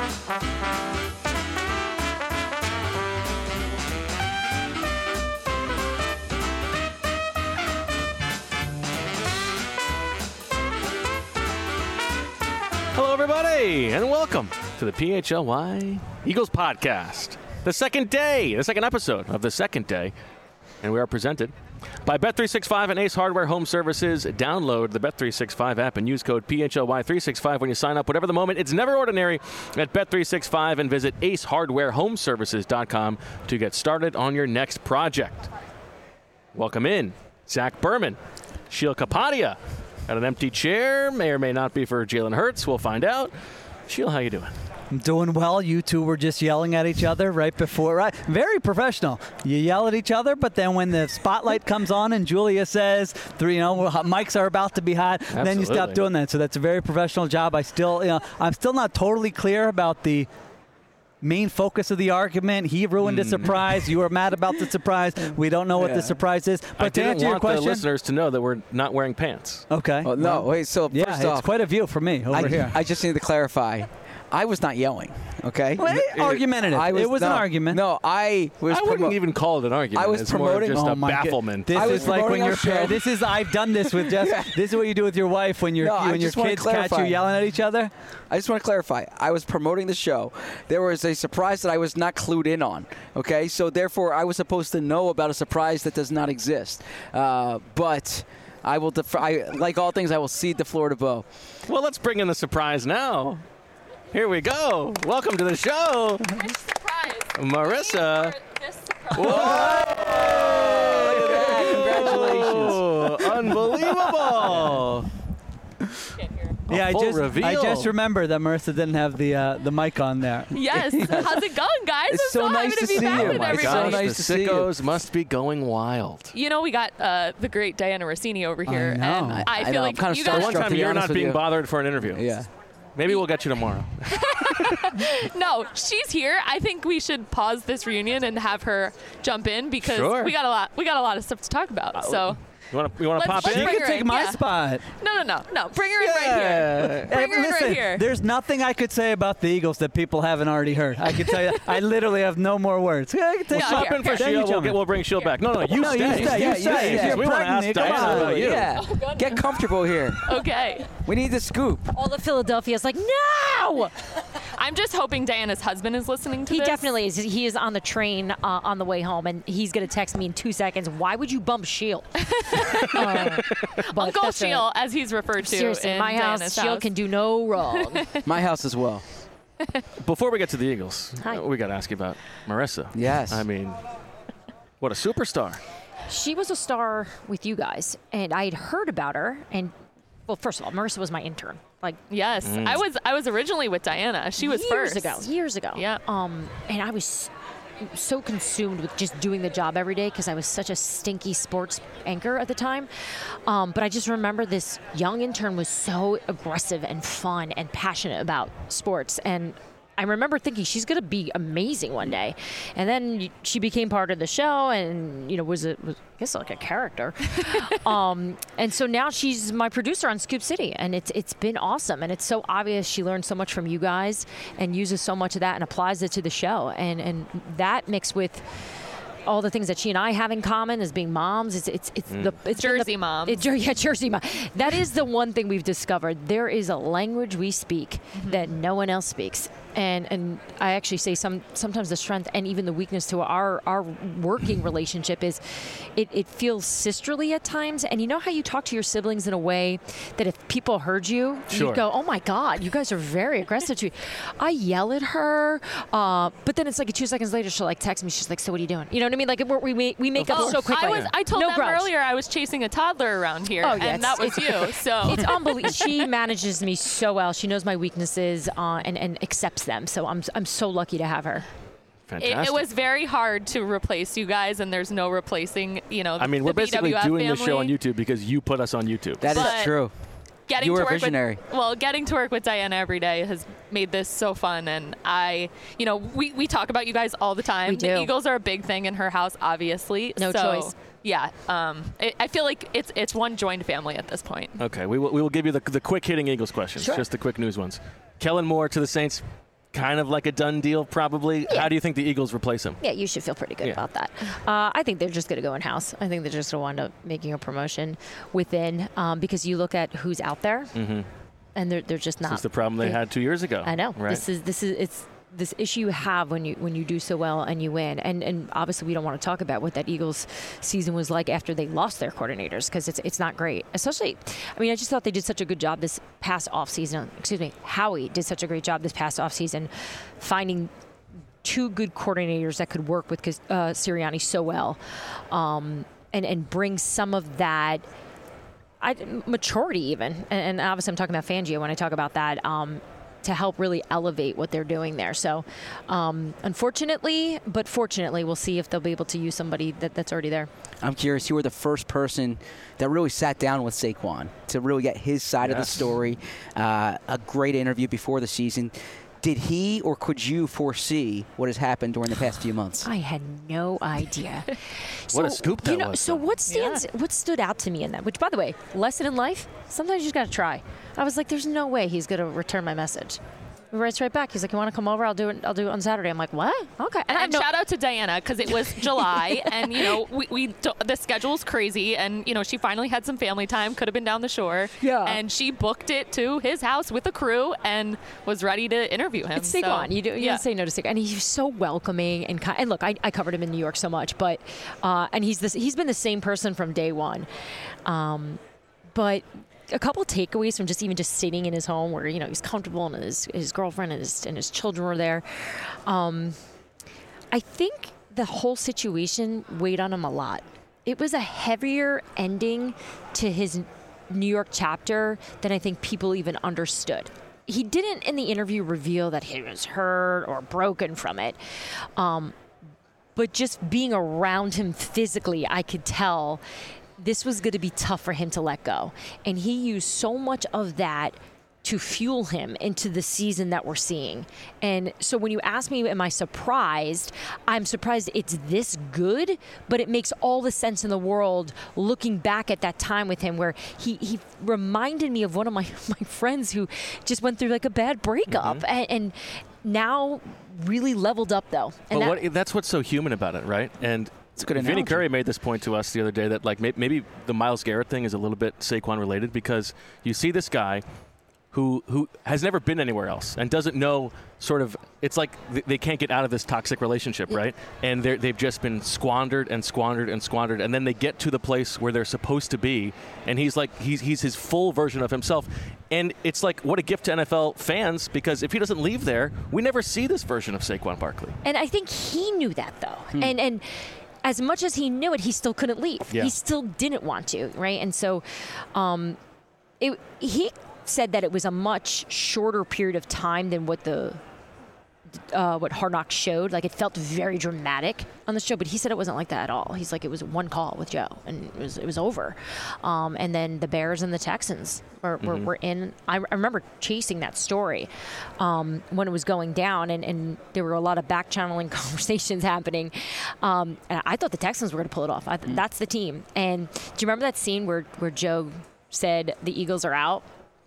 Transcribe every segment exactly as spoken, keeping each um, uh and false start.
Hello, everybody, and welcome to the P H L Y Eagles Podcast. The second day, the second episode of the second day, and we are presented by Bet three sixty-five and Ace Hardware Home Services. Download the Bet three sixty-five app and use code P H L Y three sixty-five when you sign up. Whatever the moment, it's never ordinary at Bet three sixty-five, and visit ace hardware home services dot com to get started on your next project. Welcome in, Zach Berman, Sheil Kapadia. Got an empty chair, may or may not be for Jalen Hurts. We'll find out. Sheil, how you doing? I'm doing well. You two were just yelling at each other right before. Right, very professional. You yell at each other, but then when the spotlight comes on and Julia says, three, you know, mics are about to be hot, Absolutely. then you stop doing that. So that's a very professional job. I still, you know, I'm still not totally clear about the main focus of the argument. He ruined mm. a surprise. You were mad about the surprise. We don't know what yeah. the surprise is. But I to didn't answer want your question, the listeners to know that we're not wearing pants. Okay. Oh, no, well, wait, so yeah, first it's off, quite a view for me over I, here. I just need to clarify. I was not yelling, okay? Well, It- argumentative. I was, it was no, an argument. No, I was I wouldn't promo- even call it an argument. I was it's promoting- more just Oh a my God. bafflement. This I was is like when promoting you're our show. par- This is I've done this with Jeff. This is what you do with your wife when your No, I when your just wanna kids catch you clarify. yelling at each other. I just want to clarify. I was promoting the show. There was a surprise that I was not clued in on, okay? So therefore, I was supposed to know about a surprise that does not exist. Uh, but I will, def- I, like all things, I will cede the floor to Bo. Well, let's bring in the surprise now. Here we go. Welcome to the show, Which surprise? Marissa. For this surprise. Whoa! Look at that. Congratulations. Unbelievable. Get here. A Yeah, I full just reveal. I just remember that Marissa didn't have the uh, the mic on there. Yes. How's it going, guys? It's I'm so so nice happy to, to be see back you. with Oh my everybody. gosh. Gosh, nice the to see you. sickos must be going wild. You know, we got uh, the great Diana Rossini over here, know. and I- I, I feel know, like I'm kinda you For guys. one starstruck, time, to be you're honest not with being you. bothered for an interview. Yeah. Maybe we'll get you tomorrow. No, she's here. I think we should pause this reunion and have her jump in because Sure. we got a lot. We got a lot of stuff to talk about. So You want to you want Let's- to pop let's in? You bring can her take in, my yeah. spot. no, no, no, no. Bring her in right here. Hey, Bring her in right listen, here. there's nothing I could say about the Eagles that people haven't already heard. I can tell you, I literally have no more words. Yeah, I can take Yeah, my- Pop in for Then you Sheil. We'll, jump get, in. we'll bring Sheil back. No, no, you No, you stay. stay, you Yeah, stay. yeah, You're we want to ask pregnant, come Diana on. about you. Yeah. goodness. Get comfortable here. Okay. We need the scoop. All of Philadelphia's like, no! I'm just hoping Diana's husband is listening to He this. definitely is. He is on the train uh, on the way home, and he's going to text me in two seconds. Why would you bump Sheil? uh, but Uncle that's a- Sheil, as he's referred to. Seriously, in my house, Diana's Sheil house. can do no wrong. My house as well. Before we get to the Eagles, Hi. uh, we got to ask you about Marissa. Yes. I mean, what a superstar. She was a star with you guys, and I had heard about her. And well, first of all, Marissa was my intern, like Yes, I was. I was originally with Diana. She was years first ago. Years ago. Yeah. Um, and I was so consumed with just doing the job every day because I was such a stinky sports anchor at the time. Um, but I just remember this young intern was so aggressive and fun and passionate about sports. And I remember thinking she's going to be amazing one day. And then she became part of the show and, you know, was, a, was I guess like a character. um, and so now she's my producer on Scoop City. And it's it's been awesome. And it's so obvious she learned so much from you guys and uses so much of that and applies it to the show. And, and that mixed with all the things that she and I have in common as being moms. It's it's it's the it's been Jersey the, moms. It, Jer- yeah, Jersey mom. That is the one thing we've discovered. There is a language we speak that no one else speaks. And and I actually say some sometimes the strength and even the weakness to our our working relationship is it, it feels sisterly at times. And you know how you talk to your siblings in a way that if people heard you, Sure. you'd go, oh my God, you guys are very aggressive to me. I yell at her, uh, but then it's like two seconds later she'll like text me. She's like, so what are you doing? You know what I mean? Like we're, we make, we make up so quickly. I was. I told no them grudge. earlier I was chasing a toddler around here, Oh, yeah, and that was it's- you. So It's unbelievable. She manages me so well. She knows my weaknesses uh, and and accepts them. So I'm I'm so lucky to have her. It, Fantastic. it was very hard to replace you guys, and there's no replacing. You know, the, I mean, we're the basically B W F doing family. the show on YouTube because you put us on YouTube. That is But- true. Getting You were to a work visionary. With, well, getting to work with Diana every day has made this so fun, and I, you know, we, we talk about you guys all the time. We do. The Eagles are a big thing in her house, obviously. No so, choice. Yeah, um, it, I feel like it's it's one joined family at this point. Okay, we will, we will give you the, the quick hitting Eagles questions, Sure. just the quick news ones. Kellen Moore to the Saints. kind of like a done deal, probably. Yeah. How do you think the Eagles replace him? Yeah, you should feel pretty good Yeah. about that. Uh, I think they're just going to go in-house. I think they're just going to wind up making a promotion within um, because you look at who's out there, Mm-hmm. and they're, they're just not. This is the problem they they- had two years ago. I know. Right? This is this is it's this issue you have when you when you do so well and you win. And and obviously we don't want to talk about what that Eagles season was like after they lost their coordinators because it's it's not great. Especially, I mean, I just thought they did such a good job this past offseason. Excuse me, Howie did such a great job this past offseason finding two good coordinators that could work with uh, Sirianni so well, um, and and bring some of that. I, maturity even, and, and obviously I'm talking about Fangio when I talk about that, um, to help really elevate what they're doing there. So um, unfortunately, but fortunately, we'll see if they'll be able to use somebody that, that's already there. I'm curious, you were the first person that really sat down with Saquon to really get his side of the Yes. story. Uh, a great interview before the season. Did he or could you foresee what has happened during the past few months? I had no idea. What a So, scoop you that know, was, So though. what stands, what stood out to me in that? Which, by the way, lesson in life: sometimes you just got to try. I was like, "There's no way he's going to return my message." He writes right back. He's like, "You want to come over? I'll do it. I'll do it on Saturday." I'm like, "What? Okay." And, I and know- shout out to Diana because it was July, and you know we, we do, the schedule's crazy, and you know she finally had some family time. Could have been down the shore, Yeah. And she booked it to his house with a crew and was ready to interview him. It's Saquon. So, you do, you yeah. don't say no to Saquon, and he's so welcoming and kind. And look, I, I covered him in New York so much, but uh, and he's this. He's been the same person from day one. Um, but a couple takeaways from just even just sitting in his home, where you know he's comfortable and his his girlfriend and his and his children were there. Um, I think the whole situation weighed on him a lot. It was a heavier ending to his New York chapter than I think people even understood. He didn't in the interview reveal that he was hurt or broken from it. Um, but just being around him physically, I could tell this was going to be tough for him to let go. And he used so much of that to fuel him into the season that we're seeing. And so when you ask me, am I surprised? I'm surprised it's this good, but it makes all the sense in the world looking back at that time with him where he, he reminded me of one of my, my friends who just went through like a bad breakup Mm-hmm. and, and now really leveled up though. And But that, what, that's what's so human about it, right? And It's a good Vinny analogy. Curry made this point to us the other day that like may- maybe the Myles Garrett thing is a little bit Saquon related because you see this guy who who has never been anywhere else and doesn't know sort of it's like th- they can't get out of this toxic relationship, right? And they're, they've just been squandered and squandered and squandered, and then they get to the place where they're supposed to be, and he's like he's he's his full version of himself, and it's like what a gift to N F L fans because if he doesn't leave there, we never see this version of Saquon Barkley. And I think he knew that though. And and as much as he knew it, he still couldn't leave. Yeah. He still didn't want to, right? And so um, it, he said that it was a much shorter period of time than what the uh, what Hard Knocks showed. Like it felt very dramatic on the show, but he said it wasn't like that at all. He's like, it was one call with Joe, and it was it was over. Um, and then the Bears and the Texans were, were, were in. I, I remember chasing that story um, when it was going down, and, and there were a lot of back channeling conversations happening. Um, and I thought the Texans were going to pull it off. I, th- That's the team. And do you remember that scene where where Joe said the Eagles are out?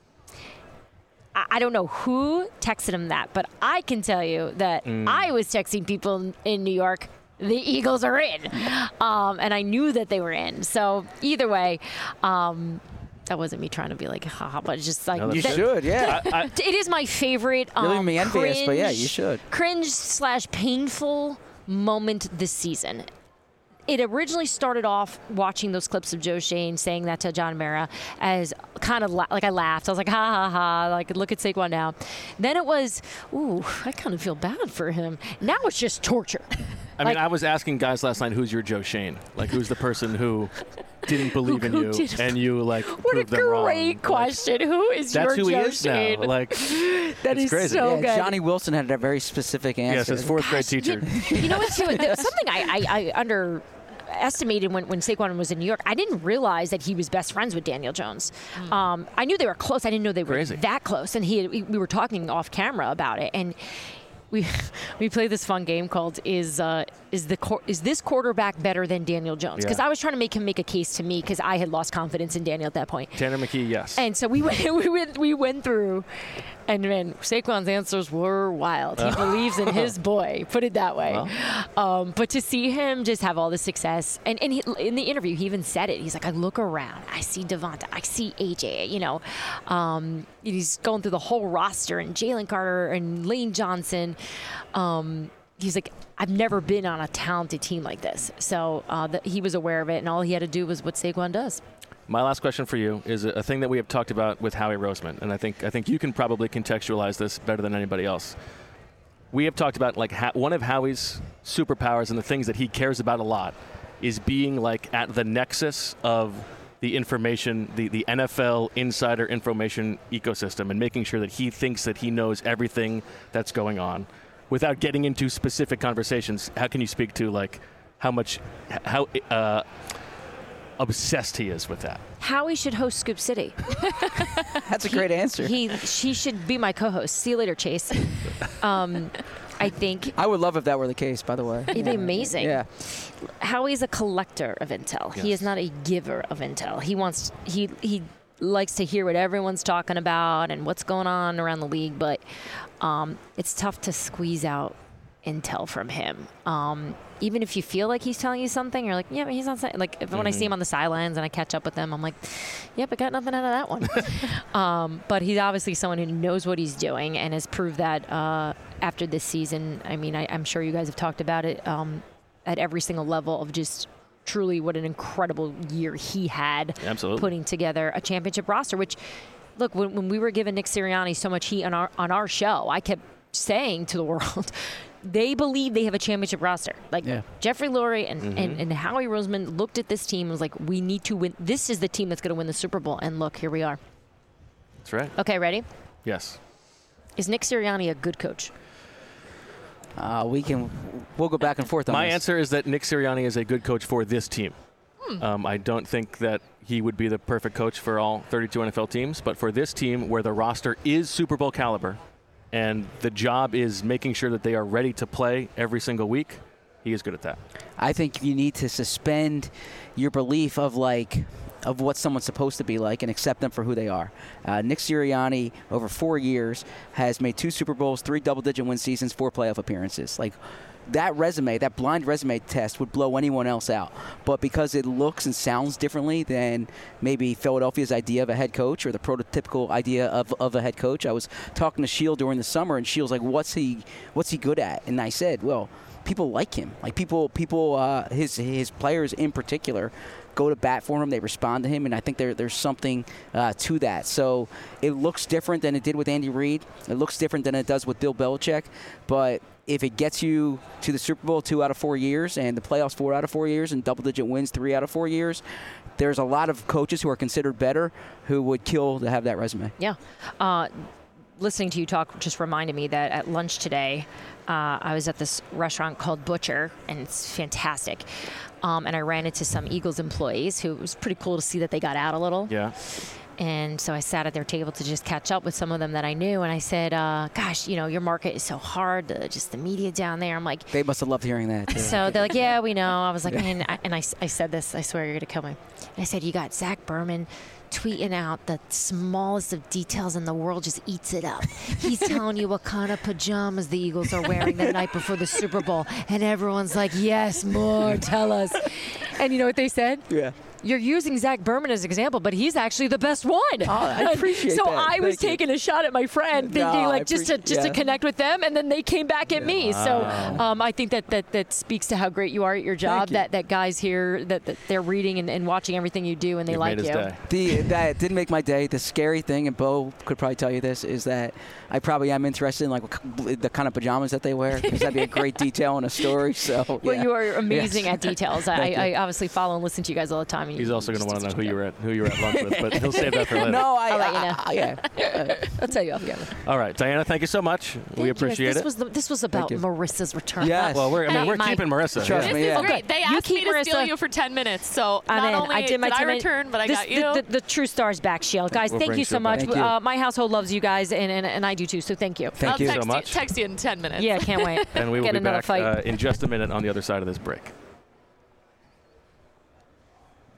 I don't know who texted him that, but I can tell you that I was texting people in New York, the Eagles are in. Um, and I knew that they were in. So either way, um, that wasn't me trying to be like, haha, but it's just like. No, You that's that- should, yeah. I, I, It is my favorite You're leaving um, me envious, but yeah, you cringe- should. Cringe slash painful moment this season. It originally started off watching those clips of Joe Shane saying that to John Mara as kind of la- like I laughed. I was like, ha ha ha, like look at Saquon now. Then it was, ooh, I kind of feel bad for him. Now it's just torture. I mean, Like- I was asking guys last night, who's your Joe Shane? Like, who's the person who didn't believe in Who you did- and you like What a proved them wrong? great Like, question. Who is that's your who Joe he is Shane? now. Like, That it's is crazy. so yeah, good. Johnny Wilson had a very specific answer. yes, his fourth grade teacher. You, you know what? Too, there was something I, I, I underestimated when, when Saquon was in New York. I didn't realize that he was best friends with Daniel Jones. Um, I knew they were close. I didn't know they were Crazy. that close. And he, had, we we were talking off camera about it. And we we played this fun game called is uh, is the quar- is this quarterback better than Daniel Jones? Because Yeah. I was trying to make him make a case to me because I had lost confidence in Daniel at that point. Tanner McKee, yes. And so we went, we went, we went through And man, Saquon's answers were wild. He believes in his boy, put it that way. Well. Um, but to see him just have all the success, and, and he, in the interview, he even said it. He's like, I look around, I see Devonta, I see A J, you know. Um, he's going through the whole roster, and Jalen Carter and Lane Johnson. Um, he's like, I've never been on a talented team like this. So uh, the, he was aware of it, and all he had to do was what Saquon does. My last question for you is a, a thing that we have talked about with Howie Roseman, and I think I think you can probably contextualize this better than anybody else. We have talked about like ha- one of Howie's superpowers and the things that he cares about a lot is being like at the nexus of the information, the, the N F L insider information ecosystem, and making sure that he thinks that he knows everything that's going on. Without getting into specific conversations, how can you speak to like how much, how uh, obsessed he is with that? Howie should host Scoop City. That's a great answer. He she should be my co-host. See you later, Chase. Um, I think I would love if that were the case, by the way. it'd be amazing. Yeah. Howie's a collector of intel. He Yes. is not a giver of intel. He wants he he likes to hear what everyone's talking about and what's going on around the league, but um, it's tough to squeeze out intel from him. Um, even if you feel like he's telling you something, you're like, yeah, but he's not saying. Like if, when I see him on the sidelines and I catch up with him, I'm like, yep, I got nothing out of that one. um, but he's obviously someone who knows what he's doing and has proved that uh, after this season. I mean, I, I'm sure you guys have talked about it um, at every single level of just truly what an incredible year he had. Absolutely. Putting together a championship roster, which, look, when, when we were giving Nick Sirianni so much heat on our on our show, I kept saying to the world, they believe they have a championship roster. Like Yeah. Jeffrey Lurie and, Mm-hmm. and, and Howie Roseman looked at this team and was like, we need to win. This is the team that's going to win the Super Bowl. And look, here we are. That's right. Okay, ready? Yes. Is Nick Sirianni a good coach? Uh, we can, we'll go back and forth on My this. answer is that Nick Sirianni is a good coach for this team. Um, I don't think that he would be the perfect coach for all thirty-two N F L teams, but for this team where the roster is Super Bowl caliber and the job is making sure that they are ready to play every single week, he is good at that. I think you need to suspend your belief of like of what someone's supposed to be like and accept them for who they are. Uh, Nick Sirianni, over four years, has made two Super Bowls, three double-digit win seasons, four playoff appearances. Like that resume, that blind resume test would blow anyone else out. But because it looks and sounds differently than maybe Philadelphia's idea of a head coach or the prototypical idea of, of a head coach, I was talking to Shield during the summer, and Shield's like, "What's he? What's he good at?" And I said, "Well, people like him. Like people, people, uh, his his players in particular." Go to bat for him. They respond to him, and I think there, there's something uh, to that. So it looks different than it did with Andy Reid. It looks different than it does with Bill Belichick. But if it gets you to the Super Bowl two out of four years and the playoffs four out of four years and double-digit wins three out of four years, there's a lot of coaches who are considered better who would kill to have that resume. Yeah. Uh, listening to you talk just reminded me that at lunch today, uh, I was at this restaurant called Butcher, and it's fantastic. Um, and I ran into some Eagles employees who it was pretty cool to see that they got out a little. Yeah. And so I sat at their table to just catch up with some of them that I knew. And I said, uh, gosh, you know, your market is so hard, the, just the media down there. I'm like, They must have loved hearing that, too. so they're like, yeah, we know. I was like, man, I, and I, I said this, I swear you're going to kill me. And I said, you got Zach Berman tweeting out the smallest of details in the world, just eats it up. He's telling you what kind of pajamas the Eagles are wearing the night before the Super Bowl. And everyone's like, yes, more, tell us. And you know what they said? Yeah. You're using Zach Berman as an example, but he's actually the best one. Oh, I appreciate so that. I was Thank you. taking a shot at my friend, thinking No, I like just to appreciate- just yeah. to connect with them, and then they came back at me. So um, I think that, that that speaks to how great you are at your job. you. That that guys here that, that they're reading and, and watching everything you do, and they You've like made his you. day. The, that didn't make my day. The scary thing, and Bo could probably tell you this, is that I probably am interested in like what, the kind of pajamas that they wear, because that'd be a great detail in a story. So Well, yeah. you are amazing Yes. at details. I, Thank you. I obviously follow and listen to you guys all the time. and He's you- also you going to just want to do know who such you were at who you were at lunch with, but he'll save that for later. No, I, I'll let you I- know. I- yeah. I'll tell you off camera. All right, Diana, thank you so much. Thank we you. appreciate this it. Was the, this was about you. Marissa's return. Yes. Well, we're, I mean, Hey, we're Mike. keeping Marissa. Trust yeah. me. This Yeah. is great. They You asked keep me to steal Marissa- you for ten minutes, so I'm not in. only I did my I ten minute- return, but I this, got the, you. The, the true stars back, Shield. Guys, We'll thank bring you so Shield much. back. Thank you. Uh, my household loves you guys, and, and, and I do too, so thank you. Thank I'll you text so much. text you in ten minutes. Yeah, can't wait. And we will Get be another back fight. uh, in just a minute on the other side of this break.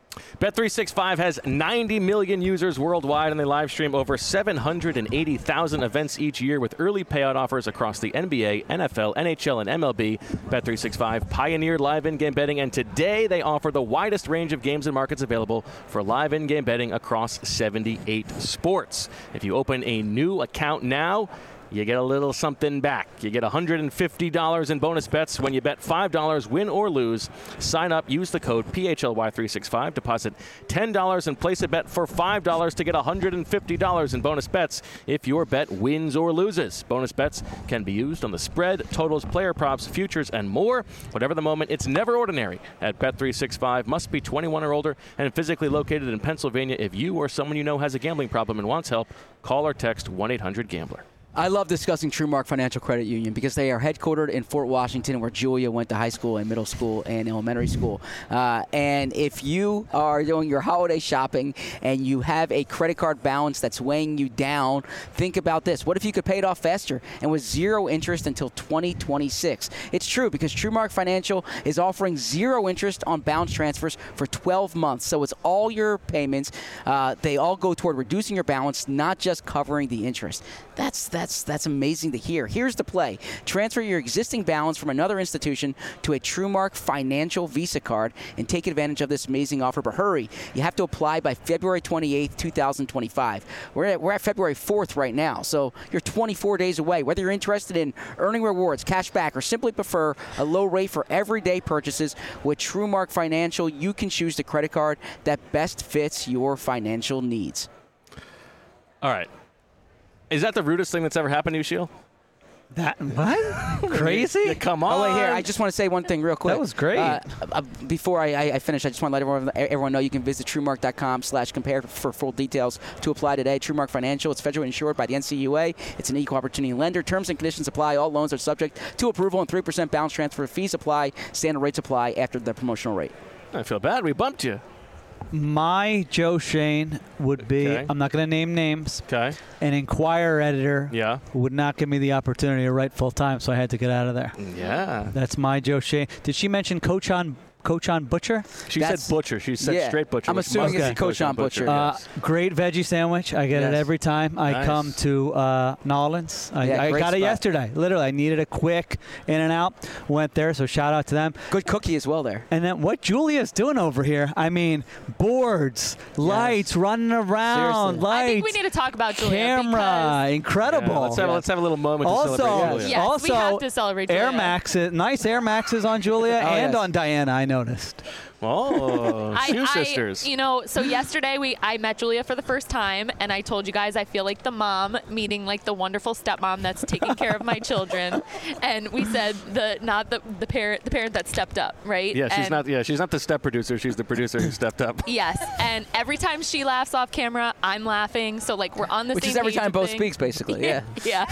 Bet three sixty-five has ninety million users worldwide, and they live stream over seven hundred eighty thousand events each year with early payout offers across the N B A, N F L, N H L, and M L B. Bet three sixty-five pioneered live in-game betting, and today they offer the widest range of games and markets available for live in-game betting across seventy-eight sports. If you open a new account now, you get a little something back. You get one hundred fifty dollars in bonus bets when you bet five dollars, win or lose. Sign up, use the code P H L Y three sixty-five, deposit ten dollars and place a bet for five dollars to get one hundred fifty dollars in bonus bets if your bet wins or loses. Bonus bets can be used on the spread, totals, player props, futures, and more. Whatever the moment, it's never ordinary at Bet three sixty-five. Must be twenty-one or older and physically located in Pennsylvania. If you or someone you know has a gambling problem and wants help, call or text one eight hundred gambler. I love discussing TrueMark Financial Credit Union because they are headquartered in Fort Washington, where Julia went to high school and middle school and elementary school. Uh, and if you are doing your holiday shopping and you have a credit card balance that's weighing you down, think about this. What if you could pay it off faster and with zero interest until twenty twenty-six? It's true, because TrueMark Financial is offering zero interest on balance transfers for twelve months. So it's all your payments. Uh, they all go toward reducing your balance, not just covering the interest. That's that's that's amazing to hear. Here's the play. Transfer your existing balance from another institution to a TrueMark Financial Visa card and take advantage of this amazing offer. But hurry, you have to apply by February twenty-eighth, twenty twenty-five. We're at, we're at February fourth right now, so you're twenty-four days away. Whether you're interested in earning rewards, cash back, or simply prefer a low rate for everyday purchases, with TrueMark Financial, you can choose the credit card that best fits your financial needs. All right. Is that the rudest thing that's ever happened to you, Sheil? That what? Crazy? Yeah, come on. Oh, wait, here. I just want to say one thing real quick. That was great. Uh, uh, before I, I, I finish, I just want to let everyone, everyone know you can visit TrueMark dot com slash compare for full details to apply today. TrueMark Financial, it's federally insured by the N C U A. It's an equal opportunity lender. Terms and conditions apply. All loans are subject to approval, and three percent balance transfer fees apply. Standard rates apply after the promotional rate. I feel bad. We bumped you. My Joe Shane would be, Okay. I'm not going to name names, Okay. an Inquirer editor Yeah. who would not give me the opportunity to write full time, so I had to get out of there. Yeah. That's my Joe Shane. Did she mention Coach on Coach on Butcher? She That's- said butcher. She said yeah. straight butcher. I'm which assuming must it's be a Coach on Butcher. Uh, yes. great veggie sandwich. I get Yes. it every time I Nice. come to uh, Nolans. I, Yeah, I great got it spot. yesterday. Literally, I needed a quick in and out. Went there, so shout out to them. Good cookie as well there. And then what Julia's doing over here, I mean, boards, lights running around, Seriously. lights, I think we need to talk about Julia camera, incredible. Yeah, let's, have, let's have a little moment to also, celebrate because, Julia. yes, also we have to celebrate Julia. Air Maxes, nice Air Maxes on Julia Oh, and yes. on Diana, I noticed. Oh, I, Shoe I- Sisters. You know, so yesterday we I met Julia for the first time, and I told you guys I feel like the mom meeting like the wonderful stepmom that's taking care of my children, and we said the not the the parent the parent that stepped up, right? yeah, she's And- not. Yeah, she's not the step producer. She's the producer who stepped up. Yes, and every time she laughs off camera, I'm laughing. So like we're on the Which same is every page time of Bo things. speaks, basically. Yeah. Yeah.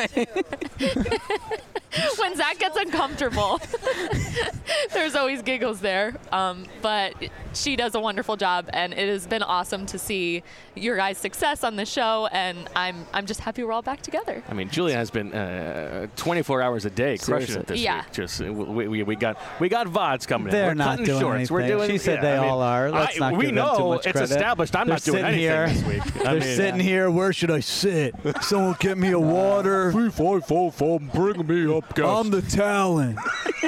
When Zach gets uncomfortable, there's always giggles there. Um, but she does a wonderful job, and it has been awesome to see your guys' success on the show. And I'm I'm just happy we're all back together. I mean, Julia has been uh, twenty-four hours a day crushing Seriously. it this Yeah. week. Just uh, we, we, we got we got V O Ds coming They're in. We're not cutting doing shorts. We're anything. doing. She said yeah, they I mean, all are. Let's I, not we give them too know much it's credit. established. I'm They're not doing sitting anything here. this week. I They're mean, sitting here. Where should I sit? Someone get me a water. Three, five, four, four, bring me up, guys. I'm the talent.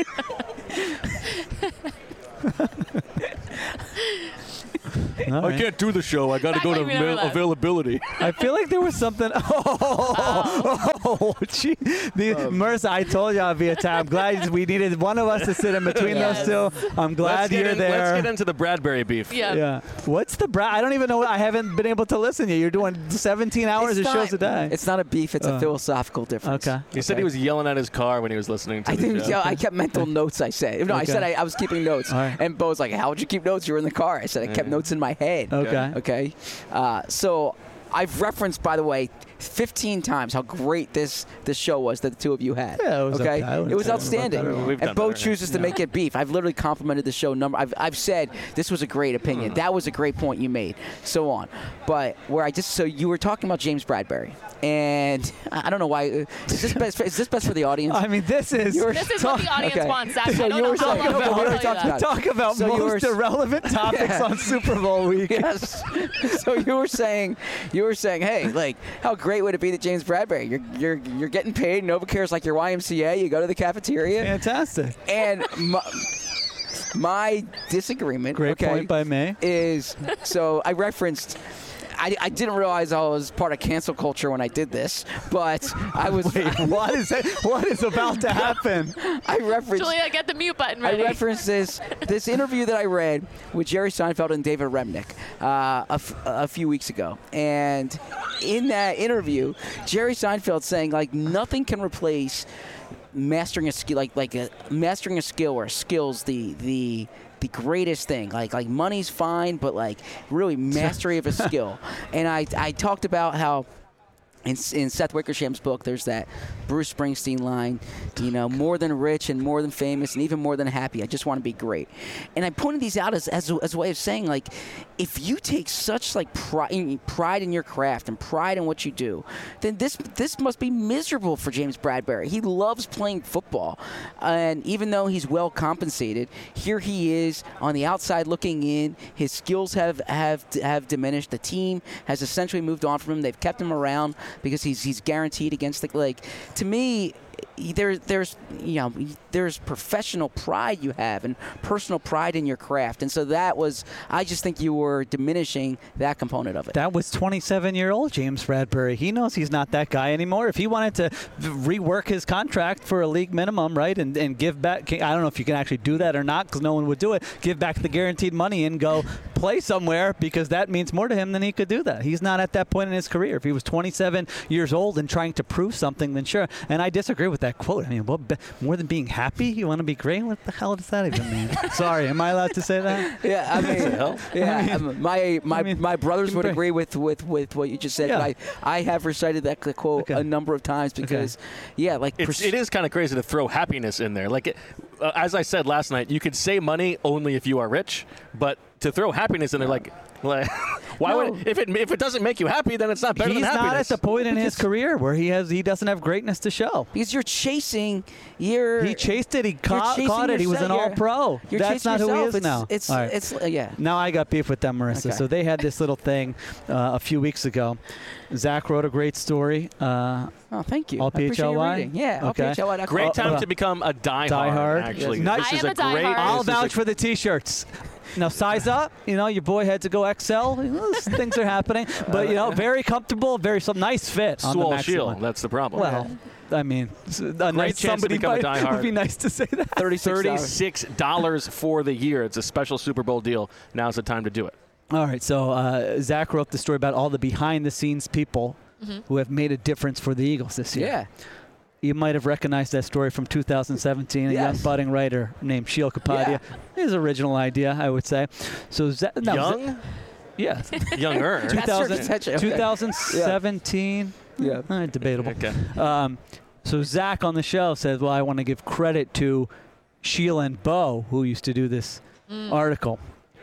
All I right. can't do the show. I got to Back go to like we never avail- left. availability. I feel like there was something. Oh, oh, gee. The, Marissa, I told y'all via time. I'm glad we needed one of us to sit in between Yes. those two. I'm glad let's get you're in- there. Let's get into the Bradbury beef. Yeah. Yeah. What's the bra? I don't even know. I haven't been able to listen yet. You're doing seventeen hours It's of not- shows a day. It's not a beef. It's Uh, a philosophical difference. Okay. He said he was yelling at his car when he was listening to I the think show. yeah, I kept mental notes. I said no. I Okay. said I, I was keeping notes, All right. and Bo's like, "How would you keep notes? You were in the car." I said I kept Yeah. notes in my head. Okay. Okay. Uh, so I've referenced, by the way, fifteen times how great this this show was that the two of you had. Yeah, it was okay. okay. I wouldn't It was say it was outstanding. better. We've done And Bo better. chooses to make it beef. I've literally complimented the show number. I've I've said this was a great opinion. That was a great point you made. So on. But where I just so you were talking about James Bradbury, and I don't know why. Is this best? Is this best for the audience? I mean, this is You were- This is what the audience Okay. wants, Zach. So I don't you know were how talking long about- we'll we already tell you talked that. about it. talk about So you most were- irrelevant topics Yeah. on Super Bowl week. Yes. So you were saying, you were saying, hey, like, how great would it be that James Bradbury? You're you're you're getting paid. NovaCare's like your Y M C A. You go to the cafeteria, Fantastic. and my, my disagreement. Great okay, point by me. Is so I referenced. I, I didn't realize I was part of cancel culture when I did this, but I was. Wait, what is it? What is about to happen? I referenced. Julia, get the mute button I ready. referenced this this interview that I read with Jerry Seinfeld and David Remnick uh, a, f- a few weeks ago, and in that interview, Jerry Seinfeld saying like nothing can replace mastering a skill, like like a, mastering a skill or skills the the. the greatest thing. Like like money's fine, but like really mastery of a skill. And I I talked about how in, in Seth Wickersham's book, there's that Bruce Springsteen line, you know, more than rich and more than famous and even more than happy. I just want to be great. And I pointed these out as, as, a, as a way of saying, like, if you take such, like, pride, pride in your craft and pride in what you do, then this this must be miserable for James Bradbury. He loves playing football. And even though he's well compensated, here he is on the outside looking in. His skills have, have, have diminished. The team has essentially moved on from him. They've kept him around because he's he's guaranteed against the like. To me, there there's you know there's professional pride you have and personal pride in your craft, and so that was I just think you were diminishing that component of it. That was twenty-seven-year-old James Bradbury. He knows he's not that guy anymore. If he wanted to rework his contract for a league minimum, right, and, and give back, I don't know if you can actually do that or not because no one would do it, give back the guaranteed money and go play somewhere because that means more to him than he could do that. He's not at that point in his career. If he was twenty-seven years old and trying to prove something, then sure. And I disagree with that quote. I mean, what, more than being happy, you want to be great? What the hell does that even mean? Sorry, am I allowed to say that? Yeah, I mean, yeah, um, my my I mean, my brothers would bring- agree with, with, with what you just said. Yeah. But I, I have recited that quote Okay. a number of times because, yeah, like It's, pers- it is kind of crazy to throw happiness in there. Like, it, uh, as I said last night, you could say money only if you are rich, but to throw happiness in there, like, like why No. would if it if it doesn't make you happy, then it's not better He's than happiness. not at the point in his career where he has he doesn't have greatness to show. because you're chasing your. He chased it. He you're caught, chasing caught it. He was yourself. an You're- all-pro. You're That's chasing not who he yourself. is it's, now. It's All right. it's uh, yeah. Now I got beef with them, Marissa. Okay. So they had this little thing uh, a few weeks ago. Zach wrote a great story. Uh, Oh, thank you. All I appreciate your P H L Y? reading. Yeah, all Okay. P H L Y dot com. Great time uh, to become a diehard. diehard. Actually, Yes. Nice. this I is am a a great. diehard. I'll this is a- vouch for the T-shirts. Now size up. You know, your boy had to go X L. Things are happening, but you know, very comfortable, very some nice fit on the Swole maximum. shield. That's the problem. Well, I mean, s- a nice chance to somebody become a might, diehard. would be nice to say that. thirty-six dollars for the year. It's a special Super Bowl deal. Now's the time to do it. All right, so uh, Zach wrote the story about all the behind-the-scenes people Mm-hmm. who have made a difference for the Eagles this year. Yeah. You might have recognized that story from two thousand seventeen. A Yes. young budding writer named Sheil Kapadia. His original idea, I would say. So Zach, no, Young, Za- yes, younger. That's your 2000, potential. Okay. twenty seventeen. Yeah. Eh, debatable. Okay. Um, so Zach on the show says, "Well, I want to give credit to Sheila and Bo, who used to do this article."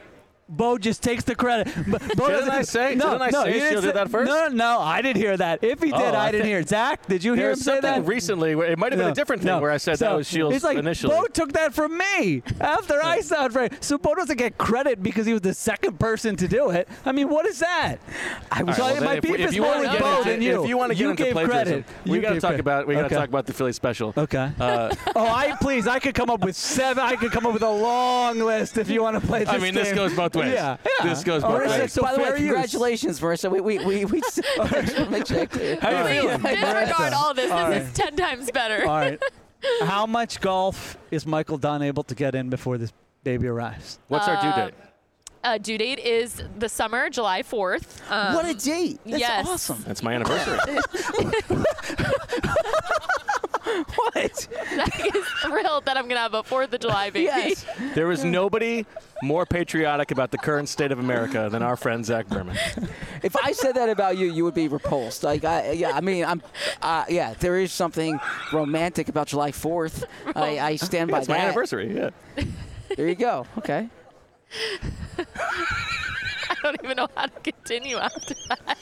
Bo just takes the credit. Bo Didn't doesn't- I say- No, didn't I no, say you didn't Sheila did say- that first? No, no, I didn't hear that. If he did, Oh, I I didn't thi- hear it. Zach, did you hear There him was say something that? recently. Where it might have been No, a different thing no. where I said So, that was Shields it's like, initially. Bo took that from me after I sound right. So Bo doesn't get credit because he was the second person to do it. I mean, what is that? I was. So All right, well, my then if beef we- if is you more wanna with get Bo into- than you. If you want to get you into gave plagiarism, credit. we You got to gave talk credit. about we got to Okay. talk about the Philly special. Okay. Uh, Oh, I please. I could come up with seven. I could come up with a long list if you want to play this I mean, this game. goes both ways. Yeah, yeah. This goes Oh, both Marissa, ways. so By the way, fair use. congratulations, Marissa. We we we, we make sure that clear. How you All right. feeling? Disregard all this. This All is ten times better. All right. How much golf is Michael Dunn able to get in before this baby arrives? What's our due date? Uh, due date is the summer, July fourth. Um, What a date! That's yes. awesome. That's my anniversary. What? Zach is thrilled that I'm going to have a fourth of July baby. Yes. There is nobody more patriotic about the current state of America than our friend Zach Berman. If I said that about you, you would be repulsed. Like, I, yeah, I mean, I'm, uh, yeah, there is something romantic about July fourth. I, I stand by It's that. my anniversary, yeah. There you go. Okay. I don't even know how to continue after that.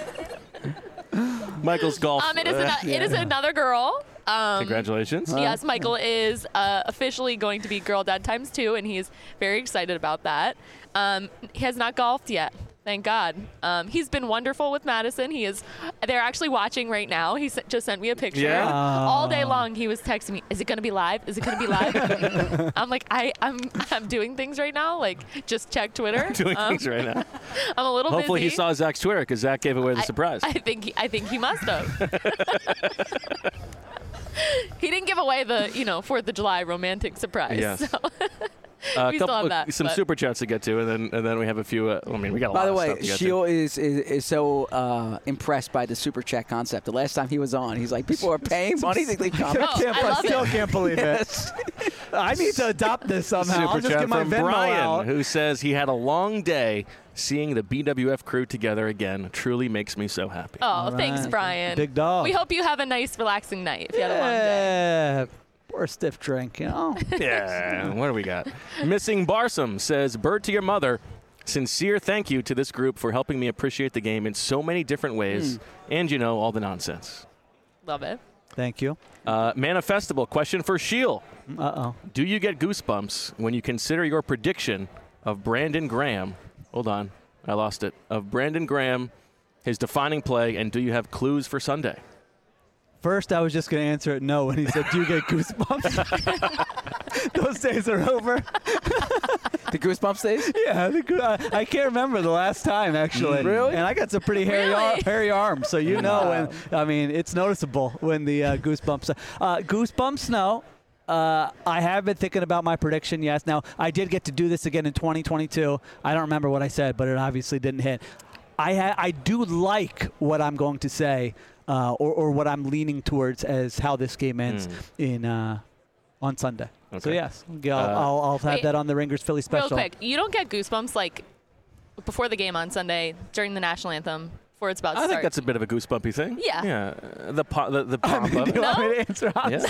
Michael's golf. Um, it is, uh, ano- it is another girl. Um, Congratulations. Yes, Michael is uh, officially going to be Girl Dad times two, and he's very excited about that. Um, he has not golfed yet, thank God. Um, he's been wonderful with Madison. He is. They're actually watching right now. He s- just sent me a picture. Yeah? All day long, he was texting me, "Is it going to be live? Is it going to be live?" I'm like, I, I'm, I'm doing things right now. Like, just check Twitter. Doing Um, things right now. I'm a little Hopefully busy. he saw Zach's Twitter because Zach gave away the I- surprise. I think he, I think he must have. He didn't give away the, you know, Fourth of July romantic surprise. Yes. So. Uh, we still have that, some but- super chats to get to, and then and then we have a few. Uh, I mean, we got a By lot the of way, stuff to get to. Sheil is, is is so uh, impressed by the super chat concept. The last time he was on, he's like, people are paying money to leave I, comments. Oh, can't, I I love still it. can't believe Yes. it. I need to adopt this somehow. Super I'll just chat get my from Venmo Brian, out. who says he had a long day. Seeing the B W F crew together again truly makes me so happy. Oh, All thanks, right. Brian. Big dog. We hope you have a nice, relaxing night if you had a long day. Yeah. Or a stiff drink, you know. Yeah, what do we got? Missing Barsum says, "Bird to your mother. Sincere thank you to this group for helping me appreciate the game in so many different ways, and you know all the nonsense." Love it. Thank you. Uh, Manifestable question for Sheil: Uh oh. do you get goosebumps when you consider your prediction of Brandon Graham? Hold on, I lost it. Of Brandon Graham, his defining play, and do you have clues for Sunday? First, I was just going to answer it no when he said, "Do you get goosebumps?" Those days are over. The Goosebumps days? Yeah, the, goo- I, I can't remember the last time actually. Really? And I got some pretty hairy, ar- Really? hairy arms, so you know Wow. when. I mean, it's noticeable when the uh, goosebumps. Uh, goosebumps, no. Uh, I have been thinking about my prediction. Yes. Now I did get to do this again in twenty twenty-two. I don't remember what I said, but it obviously didn't hit. I ha- I do like what I'm going to say, uh, or or what I'm leaning towards as how this game ends in uh, on Sunday. So Okay. yes, yeah, I'll, Uh, I'll, I'll have Wait. that on the Ringers Philly special. Real quick, you don't get goosebumps like before the game on Sunday during the national anthem before it's about to I think start. that's a bit of a goosebumpy thing. Yeah. Yeah. Uh, The po- the, the pomp Do of you it. want me to answer honestly?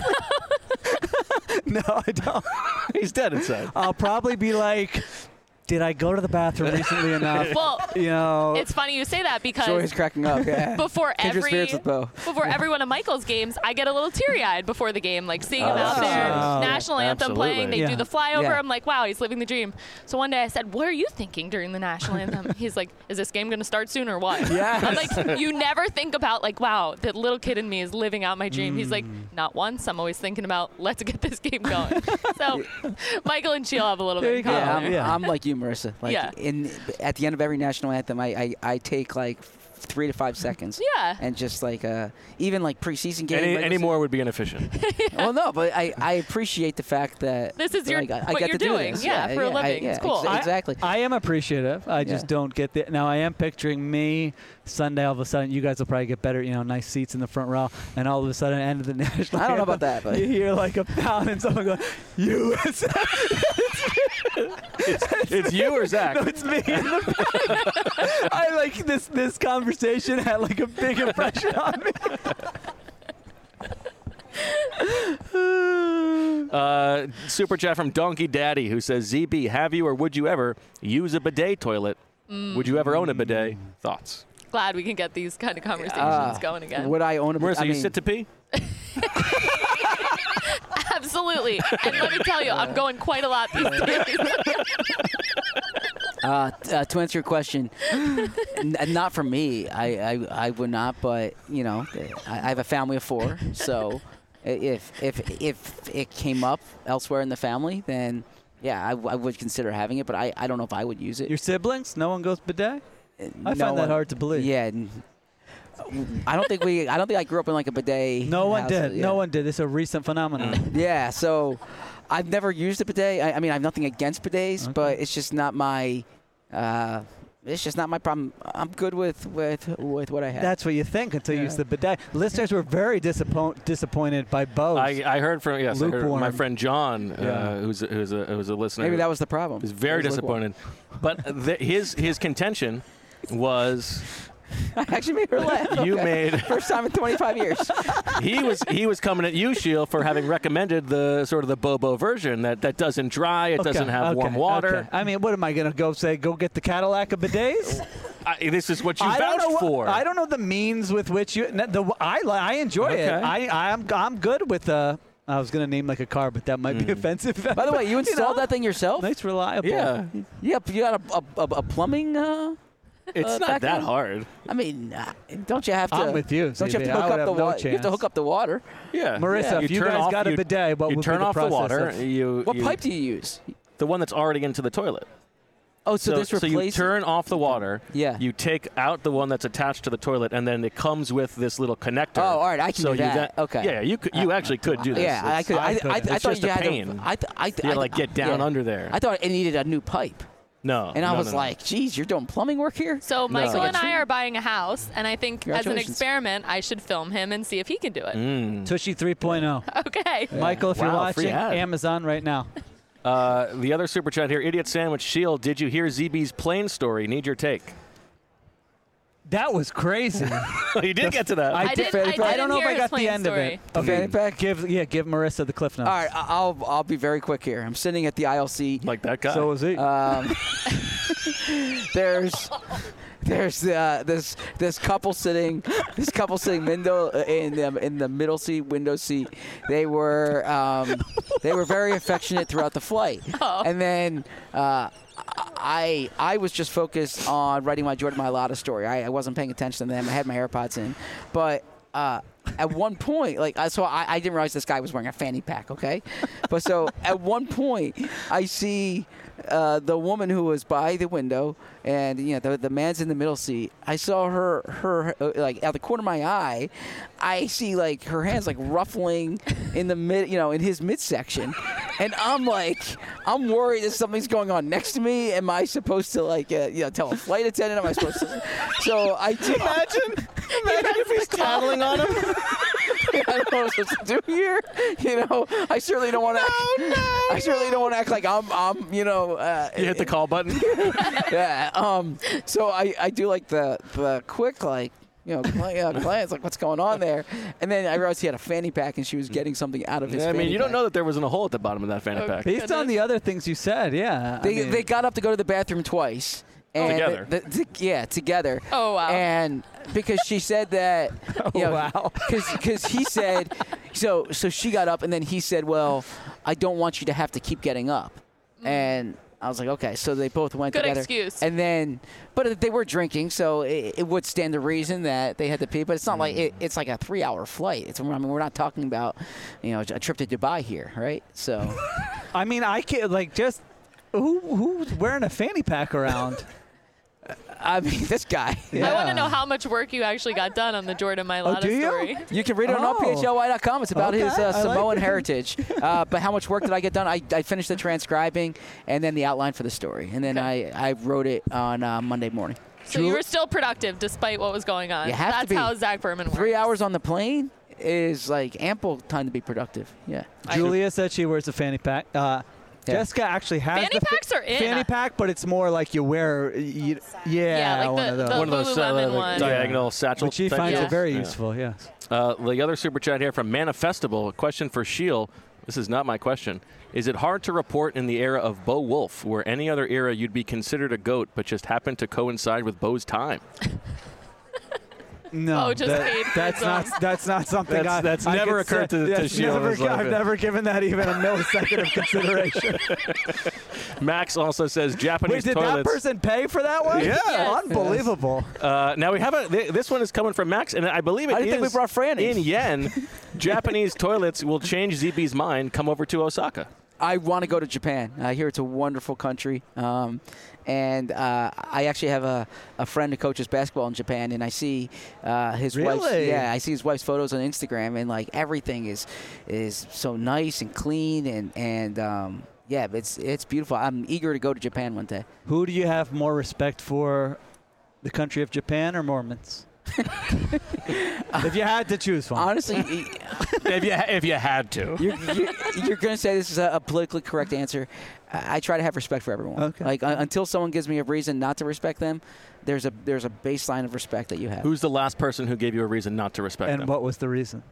Yeah. No, I don't. He's dead inside. I'll probably be like, did I go to the bathroom recently enough? well, You know, it's funny you say that because Joy is cracking up. Yeah. before Kindred every spirits with Bo. before every one of Michael's games, I get a little teary-eyed before the game, like seeing him Oh, out that's there, nice. national anthem Absolutely. playing. They Yeah. do the flyover. Yeah. I'm like, wow, he's living the dream. So one day I said, "What are you thinking during the national anthem?" He's like, "Is this game going to start soon or what?" Yes. I'm like, you never think about like, wow, the little kid in me is living out my dream. He's like, Mm. not once. I'm always thinking about, let's get this game going. So Michael and Sheil have a little There bit you in go. common. Yeah, I'm, there. Yeah. I'm like you, Marissa. Like Yeah. in at the end of every national anthem, I, I, I take like three to five seconds. Yeah. And just like uh, even like preseason game. Any, regular any season- more would be inefficient. Well, no, but I, I appreciate the fact that This is your- like, I, I what get you're to do doing. this. Yeah, for a I- living. yeah, It's cool. ex- I- exactly. I am appreciative. I just Yeah. don't get the. Now I am picturing me Sunday. All of a sudden, you guys will probably get better. You know, nice seats in the front row, and all of a sudden, end of the national. I don't know anthem, about that, but- you hear like a pound and someone go, "U S A." It's you or Zach? No, it's me. In the I like this. This conversation had like a big impression on me. Uh, super chat from Donkey Daddy who says, Z B, have you or would you ever use a bidet toilet? Would you ever own a bidet? Thoughts? Glad we can get these kind of conversations Uh, going again. Would I own a? Marissa, I you mean, sit to pee? Absolutely. And let me tell you, I'm going quite a lot these days. Uh, t- uh, to answer your question, n- not for me. I, I, I would not. But you know, I, I have a family of four, so i- if if if it came up elsewhere in the family, then yeah, I, w- I would consider having it. But I, I don't know if I would use it. Your siblings? No one goes bidet? I No find that one- hard to believe. Yeah. n- I don't think we. I don't think I grew up in like a bidet. No one house, did. yeah. No one did. It's a recent phenomenon. Yeah, so I've never used a bidet. I, I mean, I have nothing against bidets, Okay. but it's just not my. Uh, it's just not my problem. I'm good with with with what I have. That's what you think until you use the bidet. Listeners were very disappoint, disappointed by Bose. I, I heard from yes, I heard Lukewarm. my friend John, Yeah. uh, who's a, who's a who's a listener. Maybe that was the problem. He's very It was disappointed. But the, his his contention was I actually made her laugh. you Okay. made First time in twenty-five years. he was he was coming at you, Sheil, for having recommended the sort of the Bobo version that, that doesn't dry, it Okay, doesn't have okay, warm water. okay. I mean, what am I going to go say? Go get the Cadillac of bidets? I, this is what you I don't vouched know what- for. I don't know the means with which you. The I li- I enjoy Okay. it. I I'm I'm good with uh I was going to name like a car, but that might be offensive. By the way, you installed know? that thing yourself? Nice, reliable. yeah, Yep. You got a, a, a, a plumbing. Uh, it's Uh, not back that then? hard. I mean, uh, don't you have to? I'm with you, Don't you have Z B. to I hook would up the have no water? You have to chance. hook up the water. Yeah, Marissa, You if you turn guys off- got a you- bidet, what you would turn be the off the process water. of- You What you- pipe do you use? The one that's already into the toilet. Oh, so, this so you replaces. turn off the water. Yeah. You take out the one that's attached to the toilet, and then it comes with this little connector. Oh, all right, I can so do that. You then- Okay. Yeah, you could. You actually could do this. Yeah, I It's- could. I, I, I, couldn't. I It's thought just you a had pain. to. I, th- I, th- You gotta, I, like, get down yeah. under there. I thought it needed a new pipe, No. and I no, was no, no. like, "Geez, you're doing plumbing work here." So Michael Like a and I tree. are buying a house, and I think as an Congratulations. experiment, I should film him and see if he can do it. Mm. Tushy three point oh. Okay. Michael, if you're Wow, free watching, ad. Amazon right now. Uh, the other super chat here, Idiot Sandwich Shield. Did you hear Z B's plane story? Need your take. That was crazy. you did get to that. I didn't- I I don't know if didn't I hear got his the plane end of story. it. The fanny pack? Give yeah, give Marissa the cliff notes. All right, I- I'll I'll be very quick here. I'm sitting at the aisle seat. like that guy. So was he. Um, there's there's uh, this this couple sitting this couple sitting window in the in the middle seat window seat. They were um, they were very affectionate throughout the flight, Oh. and then. Uh, I I was just focused on writing my Jordan Mailata story. I, I wasn't paying attention to them. I had my AirPods in, but uh, at one point, like I- so, I, I didn't realize this guy was wearing a fanny pack. Okay, but so at one point, I see uh, the woman who was by the window, and you know the the man's in the middle seat. I saw her her uh, like out the corner of my eye. I see like her hands like ruffling in the mid, you know, in his midsection, and I'm like, I'm worried that something's going on next to me. Am I supposed to like, uh, you know, tell a flight attendant? Am I supposed to? So I do. Imagine, imagine if he's tattling on him. I don't know what I'm supposed to do here. You know, I certainly don't want to. No, no, I certainly don't want to act like I'm, I'm, you know. Uh, You hit the call button. yeah. Um. So I, I do like the the quick like. You know, cli- uh, clients like, what's going on there? And then I realized he had a fanny pack, and she was getting something out of his. I mean, fanny you don't pack. know that there wasn't a hole at the bottom of that fanny Oh, pack. Based on the other things you said, yeah. I They mean, they got up to go to the bathroom twice. And Together. the- the- to- yeah, together. Oh, wow. And because she said that, you Oh, know, wow. because he said, so so she got up, and then he said, well, I don't want you to have to keep getting up. And I was like, okay. So they both went Good together. excuse. And then, but they were drinking, so it, it would stand to reason that they had to pee. But it's not like it, it's like a three-hour flight. It's I mean, we're not talking about, you know, a trip to Dubai here, right? So. I mean, I can't like just who who's wearing a fanny pack around? I mean, this guy. Yeah. I want to know how much work you actually got done on the Jordan Mailata Oh, do you? story. You can read it on Oh. all P H L Y dot com. It's about Okay, his I uh, like Samoan it. heritage. Uh, but how much work did I get done? I, I finished the transcribing and then the outline for the story. And then Okay. I, I wrote it on uh, Monday morning. So you were still productive despite what was going on. You have to That's be. how Zach Berman works. Three hours on the plane is like ample time to be productive. Yeah. Julia said she wears a fanny pack. Uh, Yeah. Jessica actually has Fanny the fa- packs are in. fanny pack, but it's more like you wear. You, yeah, Yeah, like one the- of those. the One of those uh, Lululemon like one. diagonal satchel. But she type finds Yeah. it very Yeah. useful. Yes. Uh, the other super chat here from Manifestable. A question for Shiel. This is not my question. Is it hard to report in the era of Bo Wolf, where any other era you'd be considered a GOAT, but just happened to coincide with Bo's time? No, Oh, just that- paid for that's its not own. that's not something That's- I, that's I never could occurred say- to- to that's Sheila in never, his life. I've never given that even a millisecond of consideration. Max also says Japanese Wait, did that toilets. person pay for that one? Yeah. Yes. Unbelievable. Uh, now we have a. Th- this one is coming from Max, and I believe it I didn't think is we brought Fran in. in yen. Japanese toilets will change Z B's mind. Come over to Osaka. I want to go to Japan. I hear it's a wonderful country. Um, and uh, I actually have a, a friend who coaches basketball in Japan, and I see uh, his wife's Really? yeah, I see his wife's photos on Instagram, and like everything is is so nice and clean, and and um, yeah, it's it's beautiful. I'm eager to go to Japan one day. Who do you have more respect for, the country of Japan or Mormons? If you had to choose one. Honestly, if you if you had to. you're, you're, you're going to say this is a, a politically correct answer. I, I try to have respect for everyone. Okay. Like uh, until someone gives me a reason not to respect them, there's a there's a baseline of respect that you have. Who's the last person who gave you a reason not to respect and them? what was the reason?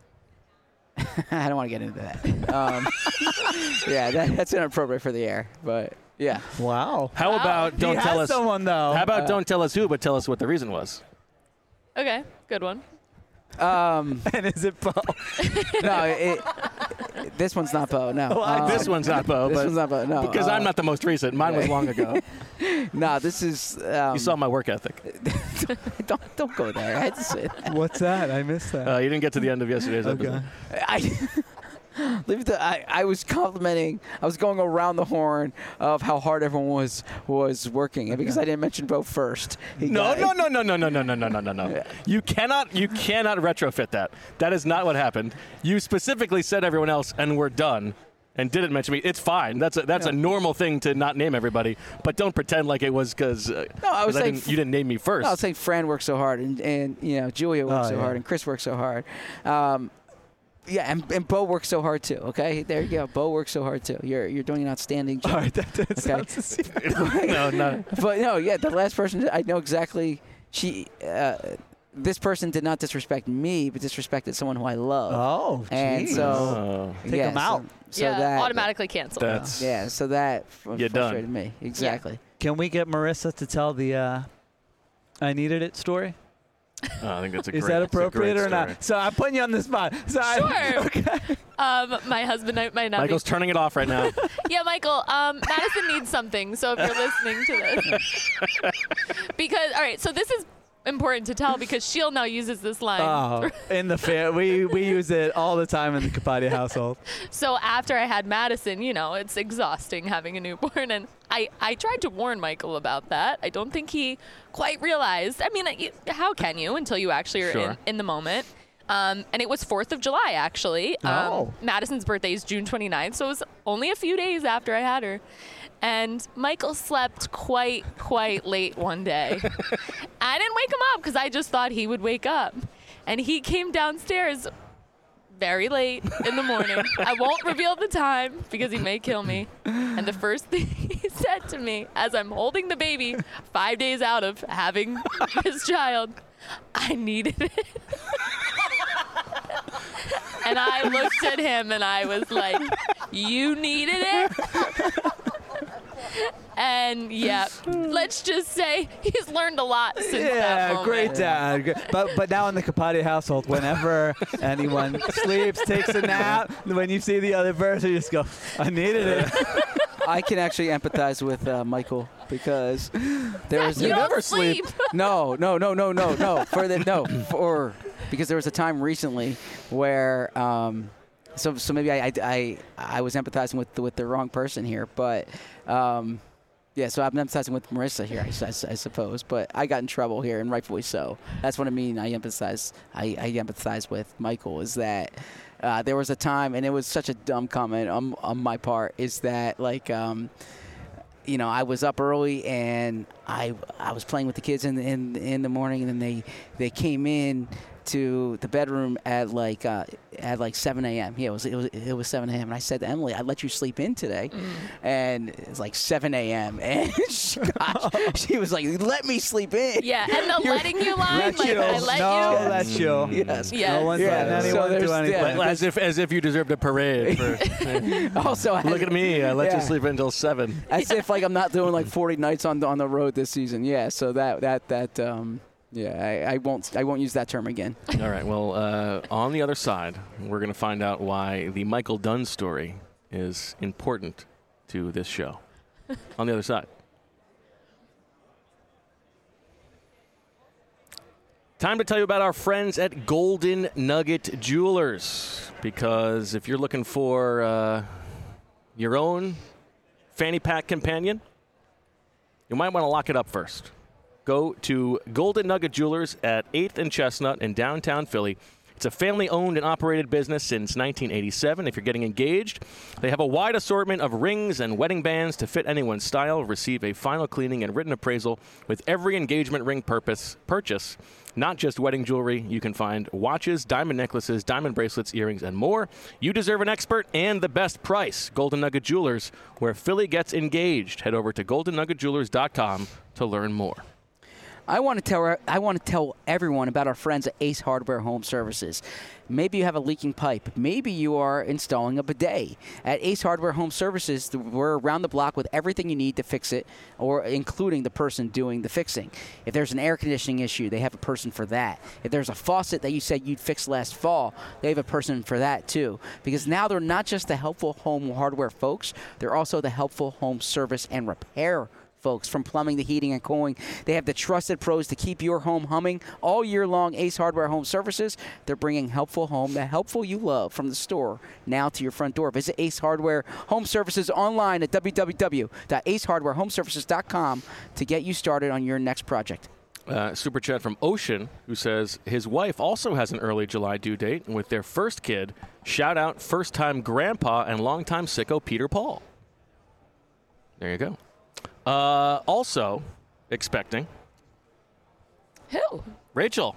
I don't want to get into that. Um, yeah, that, that's inappropriate for the air. But yeah, Wow. How about don't he tell has us? someone though. How about Uh, don't tell us who, but tell us what the reason was? Okay, good one. um, and is it Bo? no, it, it, this one's not Bo. No, Well, I- Um, this one's not Bo, this but one's not Bo. No, because uh, I'm not the most recent. Mine was long ago. No, this is. Um, You saw my work ethic. don't don't go there. I had to say that. What's that? I missed that. Uh, you didn't get to the end of yesterday's okay. episode. I, leave the, I I was complimenting. I was going around the horn of how hard everyone was was working, and because I didn't mention Bo first. he No, got- no, no, no, no, no, no, no, no, no, no. Yeah. You cannot, you cannot retrofit that. That is not what happened. You specifically said everyone else, and we're done, and didn't mention me. It's fine. That's a, that's a normal thing to not name everybody, but don't pretend like it was because uh, No, I was 'cause saying didn't, you didn't name me first. No, I was saying Fran worked so hard, and, and you know Julia worked Oh, so yeah. hard, and Chris worked so hard. Um, yeah, and, and Bo works so hard too. Okay, there you go. Bo works so hard too. You're you're doing an outstanding job. All right, that, that Okay. sounds the same. no, no. But no, yeah, the last person I know exactly. She, uh, this person did not disrespect me, but disrespected someone who I love. Oh, And geez. so- Oh, Take yeah, them out. So, so yeah, that automatically canceled. that's Yeah, so that fr- You're done. frustrated me exactly. Can we get Marissa to tell the uh, I needed it story? oh, I think that's a Is great. that it's a great appropriate or story. not? So I'm putting you on the spot. So I- Sure. okay. Um, my husband might might not Michael's turning it off right now. be. Yeah, Michael. Um, Madison needs something. So if you're listening to this, because all right, so this is important to tell because Sheil now uses this line. Oh, in the fair, we we use it all the time in the Capadia household. So after I had Madison, you know, it's exhausting having a newborn, and I, I tried to warn Michael about that. I don't think he quite realized. I mean, you, how can you until you actually are Sure. in, in the moment? Um, and it was fourth of July, actually. Um, Oh. Madison's birthday is June twenty-ninth, so it was only a few days after I had her. And Michael slept quite, quite late one day. I didn't wake him up because I just thought he would wake up. And he came downstairs very late in the morning. I won't reveal the time because he may kill me. And the first thing he said to me as I'm holding the baby, five days out of having his child, I needed it. And I looked at him and I was like, you needed it? And yeah, let's just say he's learned a lot since that Yeah, moment. great dad. Gr- But but now in the Capadia household, whenever anyone sleeps, takes a nap, when you see the other person, you just go, I needed it. I can actually empathize with uh, Michael because there was You a- don't never sleep. no, no, no, no, no, no. For the no, for because there was a time recently where um, so so maybe I I, I, I was empathizing with the, with the wrong person here, but um, yeah. So I'm empathizing with Marissa here, I, I, I suppose, but I got in trouble here, and rightfully so. That's what I mean. I empathize. I, I empathize with Michael. Is that uh, there was a time, and it was such a dumb comment on on my part. Is that like. Um, You know, I was up early and I I was playing with the kids in the, in in the morning, and then they they came in to the bedroom at like uh, at like seven a.m. Yeah, it was it was it was seven a.m. and I said to Emily, "I'd let you sleep in today," Mm. and it's like seven a.m. and she, gosh, she was like, "Let me sleep in." Yeah, and the You're- letting you line, Let like you. I let no, you. that's you. Yes. Yes. No one's Yeah, letting so anyone there's- do anything. yeah. As if as if you deserved a parade. For, Also, I- look at me. I let Yeah. you sleep until seven. as if like I'm not doing like forty nights on the, on the road this season. Yeah. So that that that um yeah I, I won't I won't use that term again. All right. Well, uh, on the other side, we're going to find out why the Michael Dunn story is important to this show. On the other side. Time to tell you about our friends at Golden Nugget Jewelers. Because if you're looking for uh, your own fanny pack companion, you might want to lock it up first. Go to Golden Nugget Jewelers at eighth and Chestnut in downtown Philly. It's a family-owned and operated business since nineteen eighty-seven. If you're getting engaged, they have a wide assortment of rings and wedding bands to fit anyone's style. Receive a final cleaning and written appraisal with every engagement ring purpose purchase. Not just wedding jewelry. You can find watches, diamond necklaces, diamond bracelets, earrings, and more. You deserve an expert and the best price. Golden Nugget Jewelers, where Philly gets engaged. Head over to golden nugget jewelers dot com to learn more. I want to tell I want to tell everyone about our friends at Ace Hardware Home Services. Maybe you have a leaking pipe. Maybe you are installing a bidet. At Ace Hardware Home Services, we're around the block with everything you need to fix it, or including the person doing the fixing. If there's an air conditioning issue, they have a person for that. If there's a faucet that you said you'd fix last fall, they have a person for that too. Because now they're not just the helpful home hardware folks, they're also the helpful home service and repair folks. From plumbing to heating and cooling, they have the trusted pros to keep your home humming all year long. Ace Hardware Home Services, they're bringing helpful home, the helpful you love, from the store now to your front door. Visit Ace Hardware Home Services online at w w w dot ace hardware home services dot com to get you started on your next project. Uh, super chat from Ocean, who says his wife also has an early July due date, and with their first kid, shout out first-time grandpa and longtime sicko Peter Paul. There you go. Uh, also expecting Who? Rachel.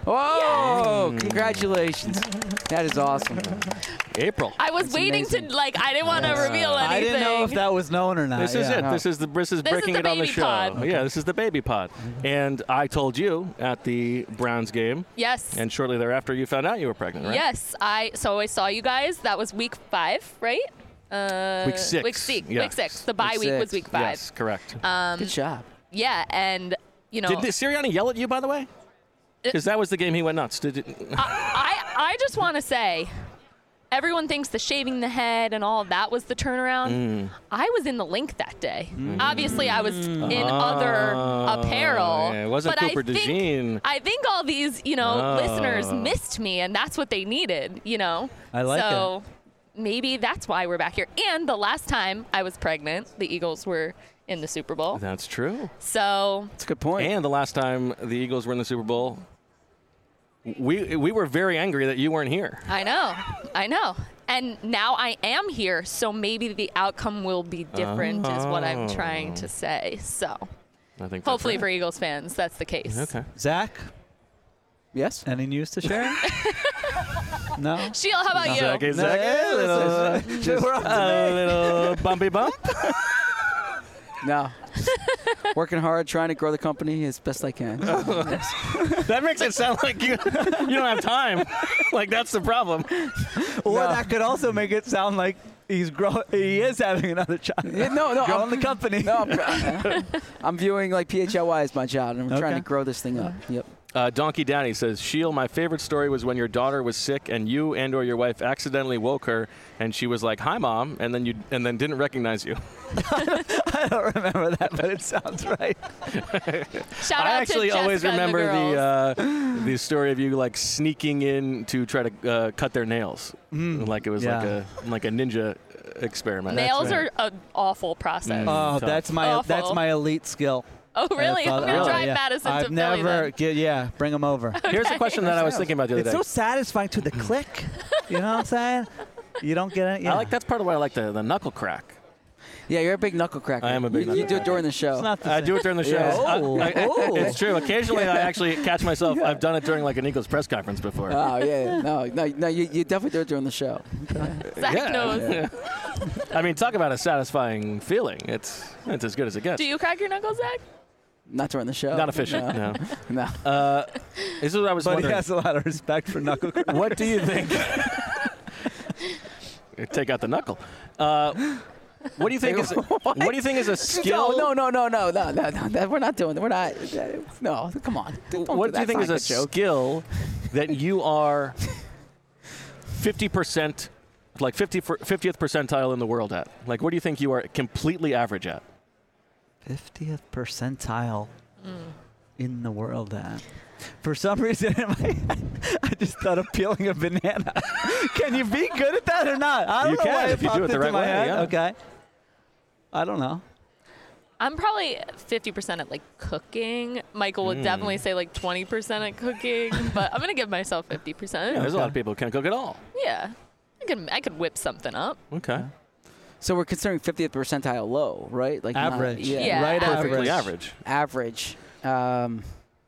Oh, congratulations. That is awesome. April. I was That's waiting amazing. to, like, I didn't want to reveal anything. I didn't know if that was known or not. This is yeah. it. This is the this is This breaking is the it on the baby show. pod. Yeah, this is the baby pod. And I told you at the Browns game, Yes. and shortly thereafter you found out you were pregnant, right? Yes. I So I saw you guys. That was week five, right? Uh, Week six. Week six. Yeah. Week six. The bye Week week was six. week five. Yes, correct. Good job. Yeah, and, you know, Did the Sirianni yell at you, by the way? Because that was the game he went nuts. Did it? I, I just want to say, everyone thinks the shaving the head and all of that was the turnaround. Mm. I was in the link that day. Obviously, I was in other apparel. yeah, it wasn't but Cooper I think, DeJean. I think all these, you know, Oh. listeners missed me, and that's what they needed, you know? I like so maybe that's why we're back here. And the last time I was pregnant, the Eagles were in the Super Bowl. That's true. So That's a good point. And the last time the Eagles were in the Super Bowl, we we were very angry that you weren't here. I know, I know. And now I am here, so maybe the outcome will be different, is what I'm trying to say. So I think. hopefully that's for Eagles fans, that's the case. right. Okay. Zach, Yes? any news to share? No? Sheila, how about you? Zach, No, Zach, yeah, a little, this is- we're up to a me. little bumpy bump. No. Working hard, trying to grow the company as best I can. That makes it sound like you you don't have time. Like that's the problem. Or No. that could also make it sound like he's grow- he is having another child. Yeah, no, no, Growing I'm- the company. No, I'm, I'm viewing like P H L Y as my child, and I'm trying Okay. to grow this thing up. Yep. Uh, Donkey Daddy says, Sheil, my favorite story was when your daughter was sick and you and or your wife accidentally woke her and she was like, "Hi, Mom," and then you and then didn't recognize you. I don't remember that, but it sounds right. Shout I out actually to always Jessica and remember the, girls. the uh, the story of you like sneaking in to try to uh, cut their nails, like it was like yeah. a like a ninja experiment. Nails right. are an awful process. Mm. Oh, Tough. that's my Awful. that's my elite skill. Oh, really? I I'm thought- going to really? drive yeah. Madison I've to Philly never, then. get, yeah, bring them over. Here's a question that I was thinking about the other It's day. so satisfying to the click. You know what I'm saying? You don't get it. Yeah. I like that's part of why I like the, the knuckle crack. Yeah, you're a big knuckle cracker. I am a big you, You knuckle do it cracker. during the show. It's not the I same. do it during the show. Yeah. Oh, I- I- oh. It's true. Occasionally, I actually catch myself. I've done it during like an Eagles press conference before. Oh, yeah. yeah. No, no, no you, you definitely do it during the show. Zach Yeah. knows. I mean, talk about a satisfying feeling. It's it's as good as it gets. Do you crack your knuckles, Zach? Not during the show. Not efficient. No. No. no. Uh, this is what I was But he wondering. has a lot of respect for knuckle crack. What do you think? Take out the knuckle. Uh, what do you think is what do you think is a skill? No, no, no, no, no, no, no, no. We're not doing that. We're not. No, come on. Don't What do you that's think not is a good joke. skill that you are fifty percent, like fifty fiftieth percentile in the world at? Like, what do you think you are completely average at? fiftieth percentile in the world at. For some reason in my head, I just thought of peeling a banana. Can you be good at that or not? I don't You know can why if you do popped it the into right my way, head. yeah. Okay. I don't know. I'm probably fifty percent at like cooking. Michael would Mm. definitely say like twenty percent at cooking, but I'm gonna give myself fifty percent. Yeah, there's a lot of people who can't cook at all. Yeah, I could I could whip something up. Okay. So we're considering fiftieth percentile low, right? Like not- Average. yeah. Yeah. Right Perfectly average. average. Average. Um,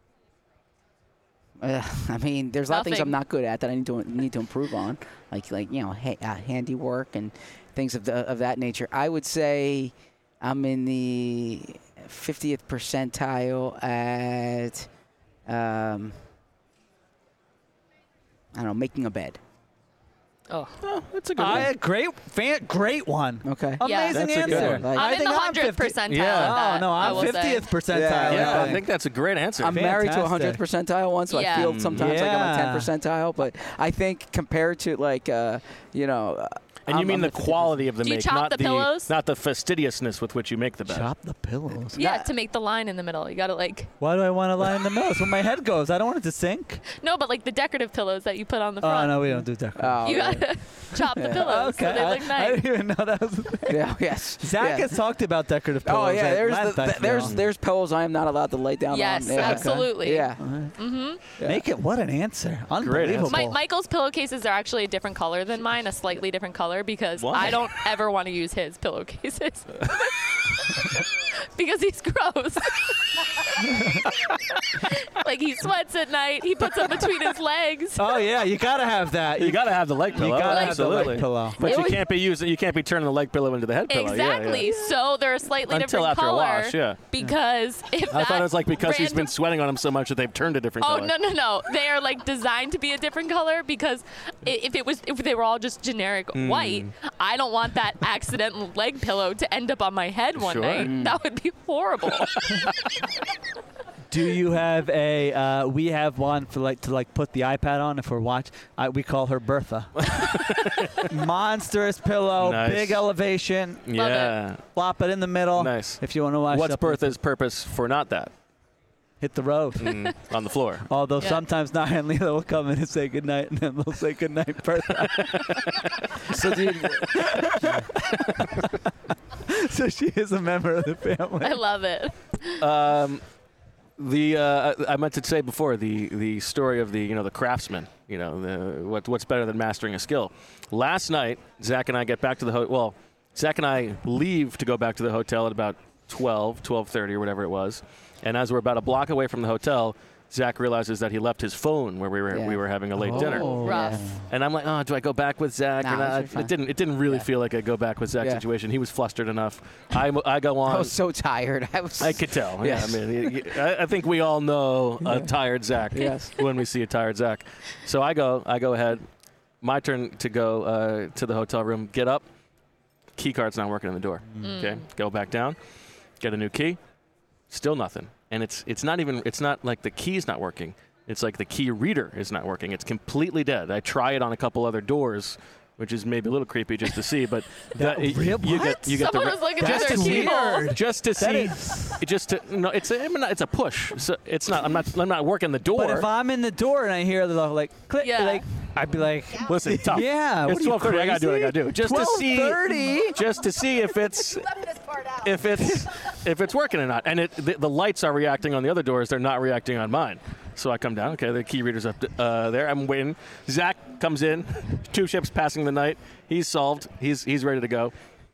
uh, I mean, there's a lot of things I'm Nothing. not good at that I need to need to improve on, like like you know, ha- uh, handiwork and things of the, of that nature. I would say I'm in the fiftieth percentile at um, I don't know, making a bed. Oh, Oh, that's a good I, one. great, fan, great one. Okay. Yeah. Amazing That's a good answer. one. Like- I I'm in think the hundredth fifty percentile. Yeah. at that, Oh no, I I'm will say. fiftieth percentile. Yeah, Yeah, I I think. think that's a great answer. I'm married to a hundredth Fantastic. percentile one, so I Yeah. feel sometimes like I'm a ten Yeah. percentile. But I think compared to like uh, you know, uh, and you I'm- mean I'm the at fifty percent. quality of the Do you make, chop not the pillows? not the fastidiousness with which you make the bed. Chop the pillows. Yeah, Yeah. to make the line in the middle, you gotta like Why do I want to lie in the middle? That's where my head goes. I don't want it to sink. no, but like the decorative pillows that you put on the Oh front. no, we don't do that. Oh, You yeah. gotta chop the Yeah. pillows so they I, look I nice. didn't even know that was. yeah, yes. Zach yeah. has talked about decorative pillows. Oh yeah, at there's length, the, I th- there's feel. there's pillows I am not allowed to lay down Yes, on. Yeah. absolutely. Yeah. Mm-hmm. Yeah. Make it. What an answer! Great Unbelievable. answer. My, Michael's pillowcases are actually a different color than mine, a slightly different color, because Why? I don't ever want to use his pillowcases. Because he's gross. Like he sweats at night. He puts them between his legs. Oh yeah, you gotta have that. You got to have the leg pillow. You gotta have the absolutely. leg pillow. But It you was- can't be using. You can't be turning the leg pillow into the head pillow. Yeah, Exactly. yeah. So they're a slightly Until different after a color. wash, yeah. Because if I that thought it was like because he's been random- sweating on them so much that they've turned a different Oh color. no no no! They are like designed to be a different color because i- if it was if they were all just generic Hmm. white, I don't want that accidental leg pillow to end up on my head one Sure. night. That would be horrible. Do you have a? Uh, we have one for like to like put the iPad on if we're watch. I, we call her Bertha. Monstrous pillow, Nice. big elevation. Yeah. Flop it in the middle. Nice. If you want to watch. What's up- Bertha's purpose for not that? Hit the road. Mm, on the floor. Although Yeah. sometimes Nia and Leela will come in and say goodnight, and then they'll say goodnight, Bertha. So do you, So she is a member of the family. I love it. Um, the uh, I meant to say before the the story of the you know the craftsman. You know the, what what's better than mastering a skill. Last night, Zach and I get back to the hotel. Well, Zach and I leave to go back to the hotel at about twelve, twelve thirty or whatever it was. And as we're about a block away from the hotel, Zach realizes that he left his phone where we were Yeah. we were having a late dinner. Oh. Rough. And I'm like, oh, do I go back with Zach Nah, or not? you're fine. It didn't. It didn't really Yeah. feel like a go back with Zach Yeah. situation. He was flustered enough. I, I go on. I was so tired. I was. I could tell. Yes. Yeah, I mean, y- y- I I think we all know a tired Zach Yes. when we see a tired Zach. So I go, I go ahead. My turn to go uh, to the hotel room. Get up. Key card's not working in the door. Okay, go back down. Get a new key. Still nothing. And it's it's not even it's not like the key's not working. It's like the key reader is not working. It's completely dead. I try it on a couple other doors, which is maybe a little creepy just to see, but that, That- you, what? you get you get Someone the was looking That's through their keyhole. weird. just to That see, is- just to no, it's a, I mean, it's a push. So it's not. I'm not. I'm not working the door. But if I'm in the door and I hear the like click, Yeah. like I'd be like, Listen, tough. yeah, what It's are you, twelve thirty. I gotta do what I crazy? gotta do. Just to see. twelve thirty? Just to see if it's if it's if it's working or not. And it the, the lights are reacting on the other doors. They're not reacting on mine. So I come down. Okay, the key reader's up uh, there. I'm waiting. Zach comes in. Two ships passing the night. He's solved. He's he's ready to go.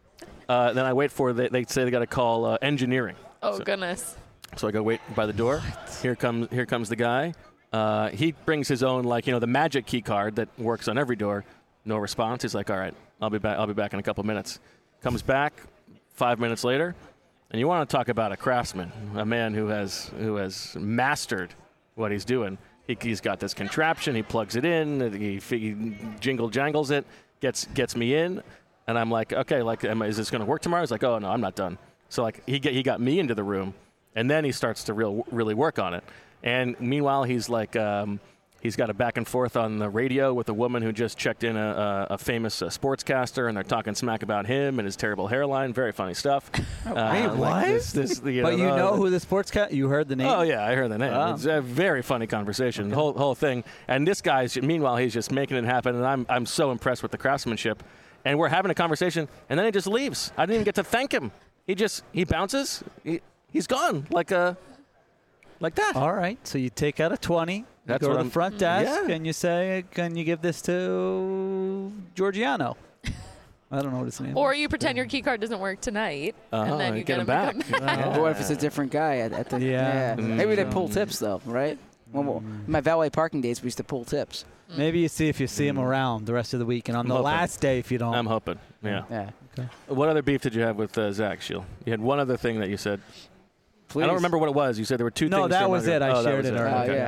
Uh, then I wait for they, they say they got to call uh, engineering. Oh So- goodness. So I go wait by the door. Here comes here comes the guy. Uh, he brings his own like you know the magic key card that works on every door. No response. He's like, all right, I'll be back. I'll be back in a couple minutes. Comes back five minutes later, and you want to talk about a craftsman, a man who has who has mastered what he's doing. He, he's got this contraption. He plugs it in. He, he jingle jangles it. Gets gets me in, and I'm like, okay, like, am, I- is this going to work tomorrow? He's like, oh no, I'm not done. So like he get, he got me into the room. And then he starts to real, really work on it. And meanwhile, he's like, um, he's got a back and forth on the radio with a woman who just checked in a, a, a famous uh, sportscaster, and they're talking smack about him and his terrible hairline. Very funny stuff. Uh, wait, like what? This, this, you But you uh, know who the sports cat? You heard the name? Oh yeah, I heard the name. Wow. It's a very funny conversation, the whole whole thing. And this guy's meanwhile he's just making it happen, and I'm I'm so impressed with the craftsmanship. And we're having a conversation, and then he just leaves. I didn't even get to thank him he just he bounces. He, he's gone like a like that. All right. So you take out a twenty. That's go what to I'm- the front desk Yeah. and you say, "Can you give this to Giorgiano?" I don't know what his name Or is. you pretend your key card doesn't work tonight, Uh-huh, and then you get him to back. come back. But what if it's a different guy at, at the Yeah. Maybe they Mm. pull tips though, right? When we- my valet parking days, we used to pull tips. Maybe you see if you see him around the rest of the week, and on I'm the hoping. last day, if you don't. I'm hoping. Yeah. Yeah. What other beef did you have with uh, Zach Shield? You had one other thing that you said. Please. I don't remember what it was. You said there were two No, things. that still was not- it. I oh, that shared was it Oh, earlier. Okay. yeah.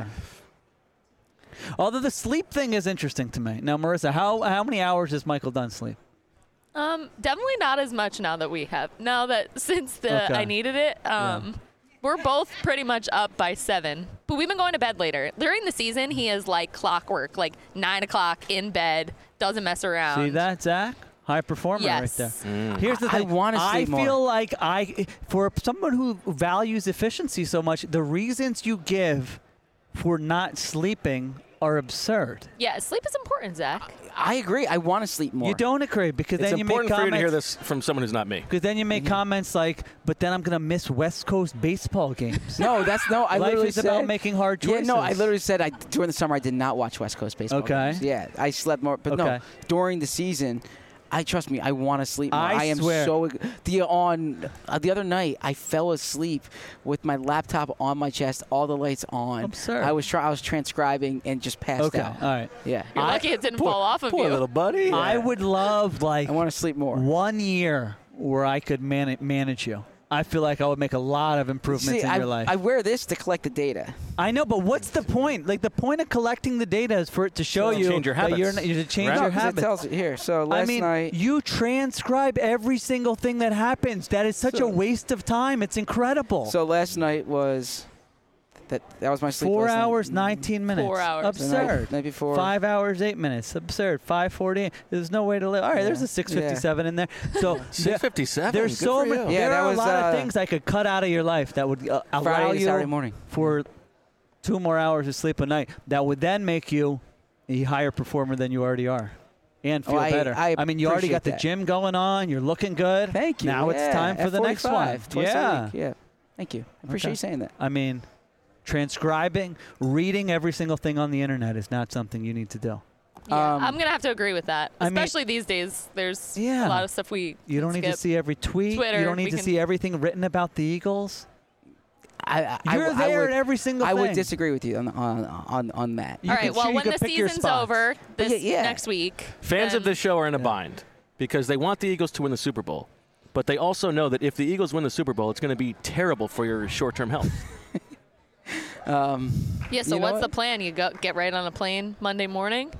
Although the sleep thing is interesting to me. Now, Marissa, how how many hours does Michael Dunn sleep? Um, definitely not as much now that we have. Now that since the Okay. I needed it, um, we're both pretty much up by seven. But we've been going to bed later. During the season, he is like clockwork, like nine o'clock in bed, doesn't mess around. See that, Zach? High performer Yes. right there. Mm. Here's the I thing. wanna I sleep more. feel like I, for someone who values efficiency so much, the reasons you give for not sleeping are absurd. Yeah, sleep is important, Zach. I agree. I want to sleep more. You don't agree because It's then you make important for you to hear comments. this from someone who's not me. Because then you make Mm-hmm. comments like, "But then I'm gonna miss West Coast baseball games." No, that's no. I Life literally is said, about making hard Yeah, no. I choices. literally said I during the summer I did not watch West Coast baseball. Okay. games. Yeah, I slept more, but no. Okay. During the season, I trust me. I want to sleep more. I am swear. so the on uh, the other night. I fell asleep with my laptop on my chest, all the lights on. Absurd. I was try, I was transcribing and just passed Okay, out. all right. Yeah. You're I- lucky it didn't Poor, fall off of poor you. little buddy. I would love like I want to sleep more. one year where I could man- manage you. I feel like I would make a lot of improvements See, in I, your life. I wear this to collect the data. I know, but what's the point? Like the point of collecting the data is for it to show To you change your that you're habits, not, you to change right? your No, 'cause it habits. tells you here. So I last mean, night. you transcribe every single thing that happens. That is such So- a waste of time. It's incredible. So last night was that that was my sleep. Four last night. hours, nineteen minutes. Four hours. The night- Absurd. Night before. Five hours, eight minutes. Absurd. Five forty. There's no way to live. All right, Yeah. there's a six fifty-seven in there. So six fifty-seven. there's Good so for many. you. Yeah, there that are was, a lot uh, of things I could cut out of your life that would uh, allow Friday to you Saturday morning. for two more hours of sleep a night. That would then make you a higher performer than you already are. And feel Oh, I- better. I mean, you already got the appreciate that. gym going on. You're looking good. Thank you. Now yeah, it's time for at the next one. forty-five, twice a Yeah. week. Yeah. Thank you. I appreciate Okay. you saying that. I mean, transcribing, reading every single thing on the internet is not something you need to do. Yeah, Um, I'm gonna have to agree with that. I mean- Especially these days, there's Yeah. a lot of stuff we You don't need to skip. see every tweet. Twitter, you don't need we to can- see everything written about the Eagles. I, I, You're I, there I would, at every single I thing. would disagree with you on on on, on that. You All can right. Well, choose- you when can the pick your season's spots. over this yeah, yeah. next week, Fans of then- this show are in a bind because they want the Eagles to win the Super Bowl, but they also know that if the Eagles win the Super Bowl, it's going to be terrible for your short-term health. Um, Yeah. So You know what's what? the plan? You go get right on a plane Monday morning.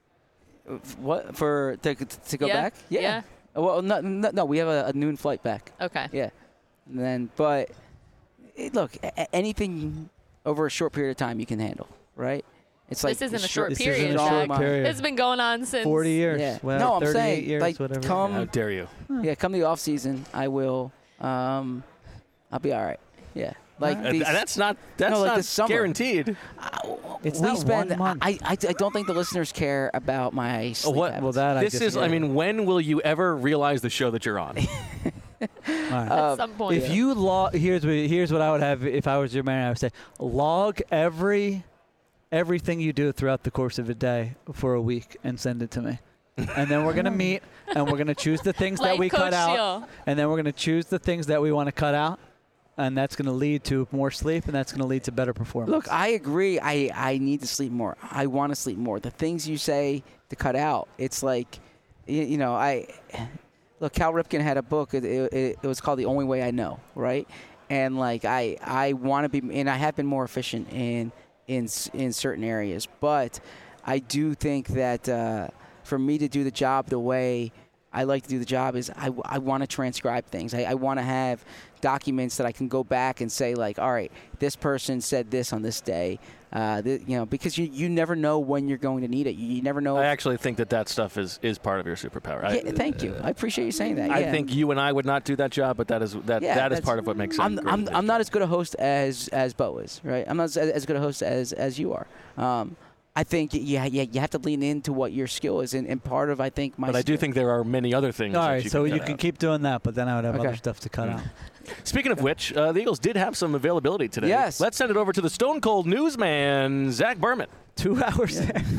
what for to, to go Yeah, back? Yeah. yeah. Well, no, no, no, we have a, a noon flight back. Okay. Yeah. And then, but it, look, a- a- anything over a short period of time you can handle, right? It's like This isn't the a short This period. isn't a Zach. short Zach. period. It's been going on since forty years. Yeah. Well, No, I'm thirty-eight saying, years, like, whatever. come- How dare you? Yeah, come the off season, I will. Um, I'll be all right. Yeah, like Uh, these, that's not that's No, like not this summer. guaranteed. It's we not spend. one month. I, I I don't think the listeners care about my Oh, sleep what? habits. Well, that I This is. disagree. I mean, when will you ever realize the show that you're on? All right. Uh, at some point. If you log, here's what here's what I would have if I was your man. I would say log every everything you do throughout the course of a day for a week and send it to me. And then we're gonna meet and we're gonna choose the things that Like we cut Coach out, Shield. and then we're gonna choose the things that we want to cut out, and that's gonna lead to more sleep, and that's gonna lead to better performance. Look, I agree. I, I need to sleep more. I want to sleep more. The things you say to cut out, it's like, you, you know, I look. Cal Ripken had a book. It, it, it was called The Only Way I Know, right? And like I I want to be, and I have been more efficient in in s- in certain areas, but I do think that uh, for me to do the job the way I like to do the job is I, I want to transcribe things. I, I want to have documents that I can go back and say like, all right, this person said this on this day, uh, th- you know, because you, you never know when you're going to need it. You, you never know. I if- actually think that that stuff is, is part of your superpower. I, yeah, thank you. I appreciate you saying that. I yeah. think you and I would not do that job, but that is that Yeah, that is that's- part of what makes it. I'm, great. I'm, I'm not as good a host as as Bo is, right? I'm not as, as good a host as as you are. Um, I think yeah, yeah, you have to lean into what your skill is, and, and part of I think my. But I do skill- think there are many other things. All that right, you so can you cut can out. keep doing that, but then I would have Okay. other stuff to cut out. Speaking of which, uh, the Eagles did have some availability today. Yes. Let's send it over to the Stone Cold newsman, Zach Berman. Two hours.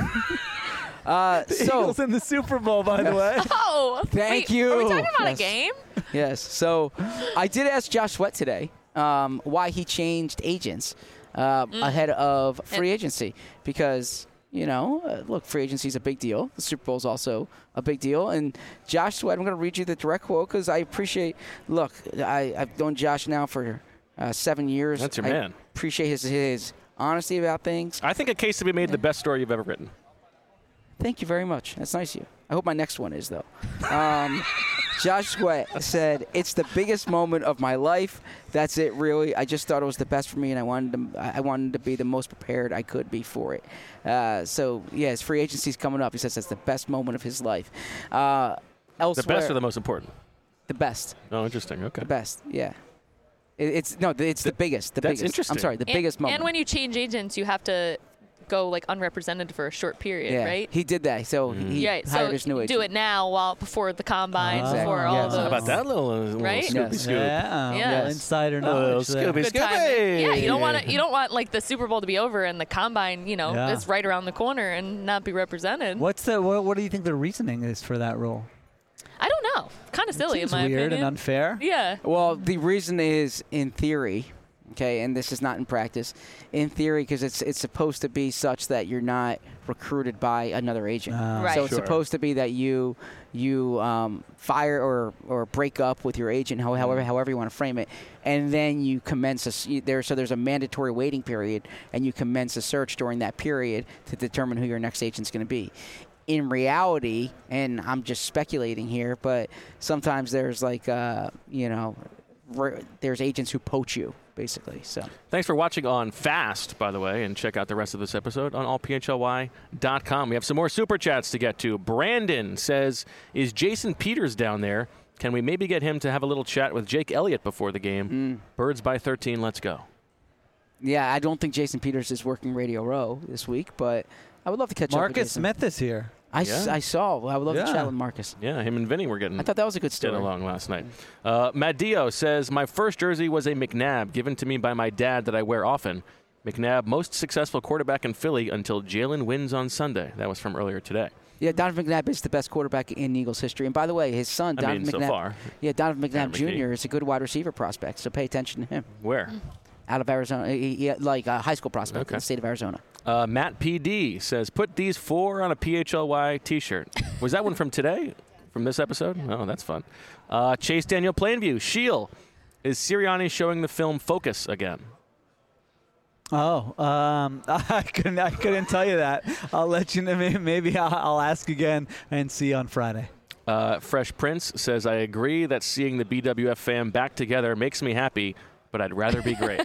Uh, The so Eagles in the Super Bowl, by the way. Oh, Thank wait, you. Are we talking about Yes. a game? yes, so I did ask Josh Sweat today um, why he changed agents uh, ahead of free agency because. You know, uh, look, free agency is a big deal. The Super Bowl is also a big deal. And Josh Sweat, I'm going to read you the direct quote because I appreciate. Look, I, I've known Josh now for uh, seven years. That's your I man. Appreciate his his honesty about things. I think a case to be made the best story you've ever written. Thank you very much. That's nice of you. I hope my next one is, though. Um, Josh Sweat said, "It's the biggest moment of my life. That's it, really. I just thought it was the best for me, and I wanted to, I wanted to be the most prepared I could be for it." Uh, so, yeah, his free agency's coming up. He says that's the best moment of his life. Uh, The elsewhere, best or the most important? the best, Oh, interesting. Okay. the best. Yeah. It, it's no, it's the biggest. The That's biggest. interesting. I'm sorry, the And- biggest moment. And when you change agents, you have to go like unrepresented for a short period, yeah, right? he did that. So he yeah, hired so his new agent. do it now while before the combine, Ah, before Exactly. all Yes. those. How about that little, uh, little Right? Scoopy Yes. scoop? Yeah, Yeah. well, insider Oh, knowledge there. Scooby. Good time. Scooby. Yeah, you don't want to. You don't want like the Super Bowl to be over and the combine, you know, Yeah. is right around the corner and not be represented. What's the what, what do you think the reasoning is for that rule? I don't know. Kind of silly Seems in my weird opinion. and unfair. Yeah. Well, the reason is in theory, okay, and this is not in practice. In theory, because it's it's supposed to be such that you're not recruited by another agent. Ah. Right. So it's Sure. supposed to be that you you um, fire or, or break up with your agent, how- however however you want to frame it, and then you commence a s- you- there. So there's a mandatory waiting period, and you commence a search during that period to determine who your next agent's going to be. In reality, and I'm just speculating here, but sometimes there's like uh, you know, re- there's agents who poach you basically. So Thanks for watching on Fast, by the way, and check out the rest of this episode on all p h l y dot com. We have some more super chats to get to. Brandon says, is Jason Peters down there? Can we maybe get him to have a little chat with Jake Elliott before the game? Birds by thirteen, let's go. yeah, I don't think Jason Peters is working Radio Row this week, but I would love to catch up with Marcus Jason. Smith is here. I, s- Yeah. I saw. I would love to Yeah. chat with Marcus. Yeah, him and Vinny were getting I thought that was a good getting story. along last night. Uh, Matt Dio says, my first jersey was a McNabb given to me by my dad that I wear often. McNabb, most successful quarterback in Philly until Jalen wins on Sunday. That was from earlier today. Yeah, Donovan McNabb is the best quarterback in Eagles history. And by the way, his son, I Donovan mean, so McNabb. far. Yeah, Donovan McNabb Tanner McKee. Junior is a good wide receiver prospect, so pay attention to him. Where? Out of Arizona, he- he- like a high school prospect Okay. in the state of Arizona. Uh, Matt P D says, put these four on a P H L Y t-shirt. Was that one from today? From this episode? Oh, that's fun. Uh, Chase Daniel Plainview. Sheil. Is Sirianni showing the film Focus again? Oh, um, I couldn't. I couldn't tell you that. I'll let you know. Maybe, maybe I'll, I'll ask again and see on Friday. Uh, Fresh Prince says, I agree that seeing the B W F fam back together makes me happy, but I'd rather be great.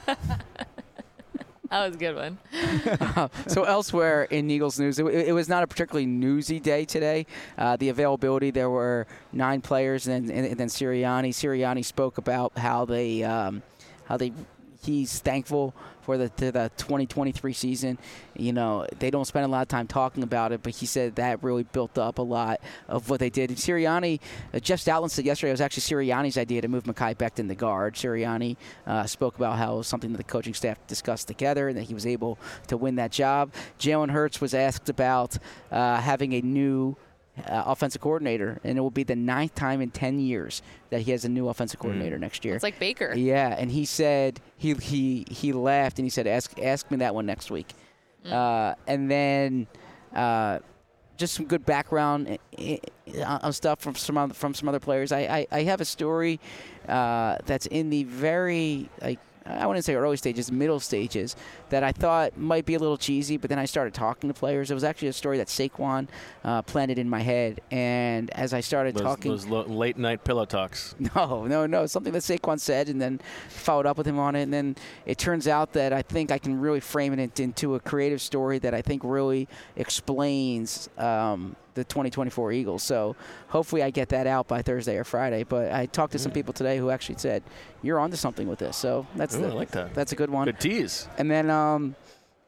That was a good one. So elsewhere in Eagles news, it, it was not a particularly newsy day today. Uh, the availability, there were nine players, and, and, and then Sirianni. Sirianni spoke about how they, um, how they, he's thankful for the, to the twenty twenty-three season. You know, they don't spend a lot of time talking about it, but he said that really built up a lot of what they did. And Sirianni, uh, Jeff Stoutland said yesterday it was actually Sirianni's idea to move Mekhi Becton to guard. Sirianni uh, spoke about how it was something that the coaching staff discussed together and that he was able to win that job. Jalen Hurts was asked about uh, having a new Uh, offensive coordinator, and it will be the ninth time in ten years that he has a new offensive coordinator next year. It's like Baker. Yeah, and he said he he he laughed and he said, "Ask ask me that one next week." Mm. Uh, and then uh, just some good background i- i- on stuff from some other, from some other players. I I, I have a story uh, that's in the very like. I wouldn't say early stages, middle stages, that I thought might be a little cheesy, but then I started talking to players. It was actually a story that Saquon uh, planted in my head, and as I started Those, talking, those lo- late night pillow talks. no, no, no, something that Saquon said, and then followed up with him on it, and then it turns out that I think I can really frame it into a creative story that I think really explains um, the twenty twenty-four Eagles. So hopefully I get that out by Thursday or Friday. But I talked to some people today who actually said, you're onto something with this. So that's Ooh, the, I like that. That's a good one. Good tease. And then, um,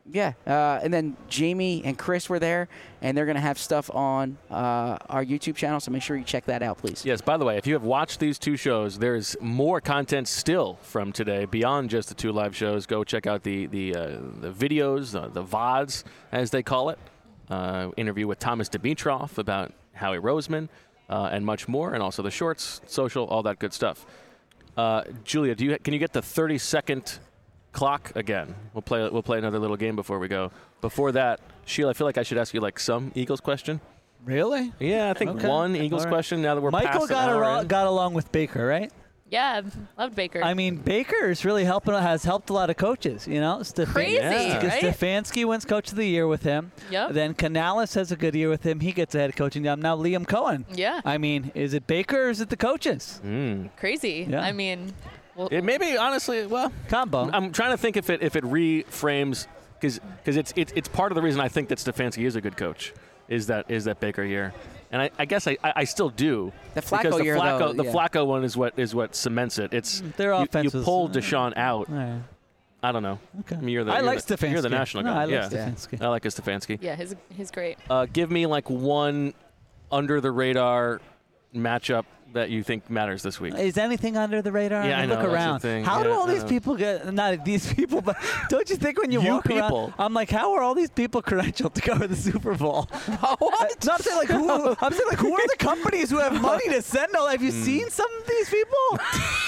Yeah, uh, and then Jamie and Chris were there, and they're going to have stuff on uh, our YouTube channel, so make sure you check that out, please. Yes, by the way, if you have watched these two shows, there's more content still from today beyond just the two live shows. Go check out the the, uh, the videos, uh, the V O Ds, as they call it. Uh, interview with Thomas Dimitrov about Howie Roseman uh, and much more, and also the shorts, social, all that good stuff. Uh, Julia, do you can you get the thirty-second clock again? We'll play we'll play another little game before we go. Before that, Sheila, I feel like I should ask you like some Eagles question. Really? Yeah, I think Okay. one Eagles All right. question now that we're Michael past an got, hour aro- in. got along with Baker, right? Yeah, loved Baker. I mean, Baker is really helping. Has helped a lot of coaches. You know, Stef- Crazy, Yeah. right? Stefanski wins Coach of the Year with him. Yep. Then Canales has a good year with him. He gets a head coaching job. Now Liam Cohen. Yeah. I mean, is it Baker or is it the coaches? Mm. Crazy. Yeah. I mean, well, It may be, honestly, well, Combo. I'm trying to think if it if it reframes, because it's, it's it's part of the reason I think that Stefanski is a good coach, is that is that Baker year. And I, I guess I, I I still do. The Flacco because the year, Flacco, though, the yeah. Flacco one is what is what cements it. It's Their you, offense you was- pull Deshaun out. All right. I don't know. Okay. I mean, you're the, I you're like the, Stefanski. You're the national no, guy. I like yeah. Stefanski. I like a Stefanski. yeah, he's he's great. Uh, give me like one under the radar matchup that you think matters this week. Is anything under the radar? Yeah, I mean, know, look that's the around. thing. How do Yeah, all I these know. people get? Not these people, but don't you think when you, You walk people. around, I'm like, how are all these people credentialed to go to the Super Bowl? What? No, I'm saying like who? I'm saying like who are the companies who have money to send all? Have you Hmm. seen some of these people?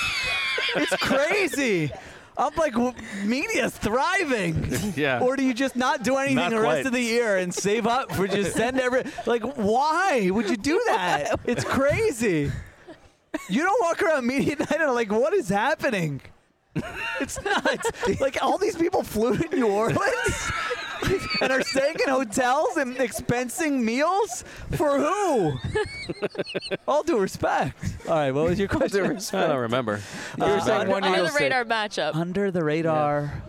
It's crazy. I'm like, w- media's thriving. Yeah. Or do you just not do anything Not the rest quite. of the year and save up for just send every like? Why would you do that? It's crazy. You don't walk around media night and like, what is happening? It's nuts. Like all these people flew to New Orleans and are staying in hotels and expensing meals for who? All due respect. All right, what was your question? I don't remember. You were Uh, saying under- one Under Eagles the thing. radar matchup. Under the radar.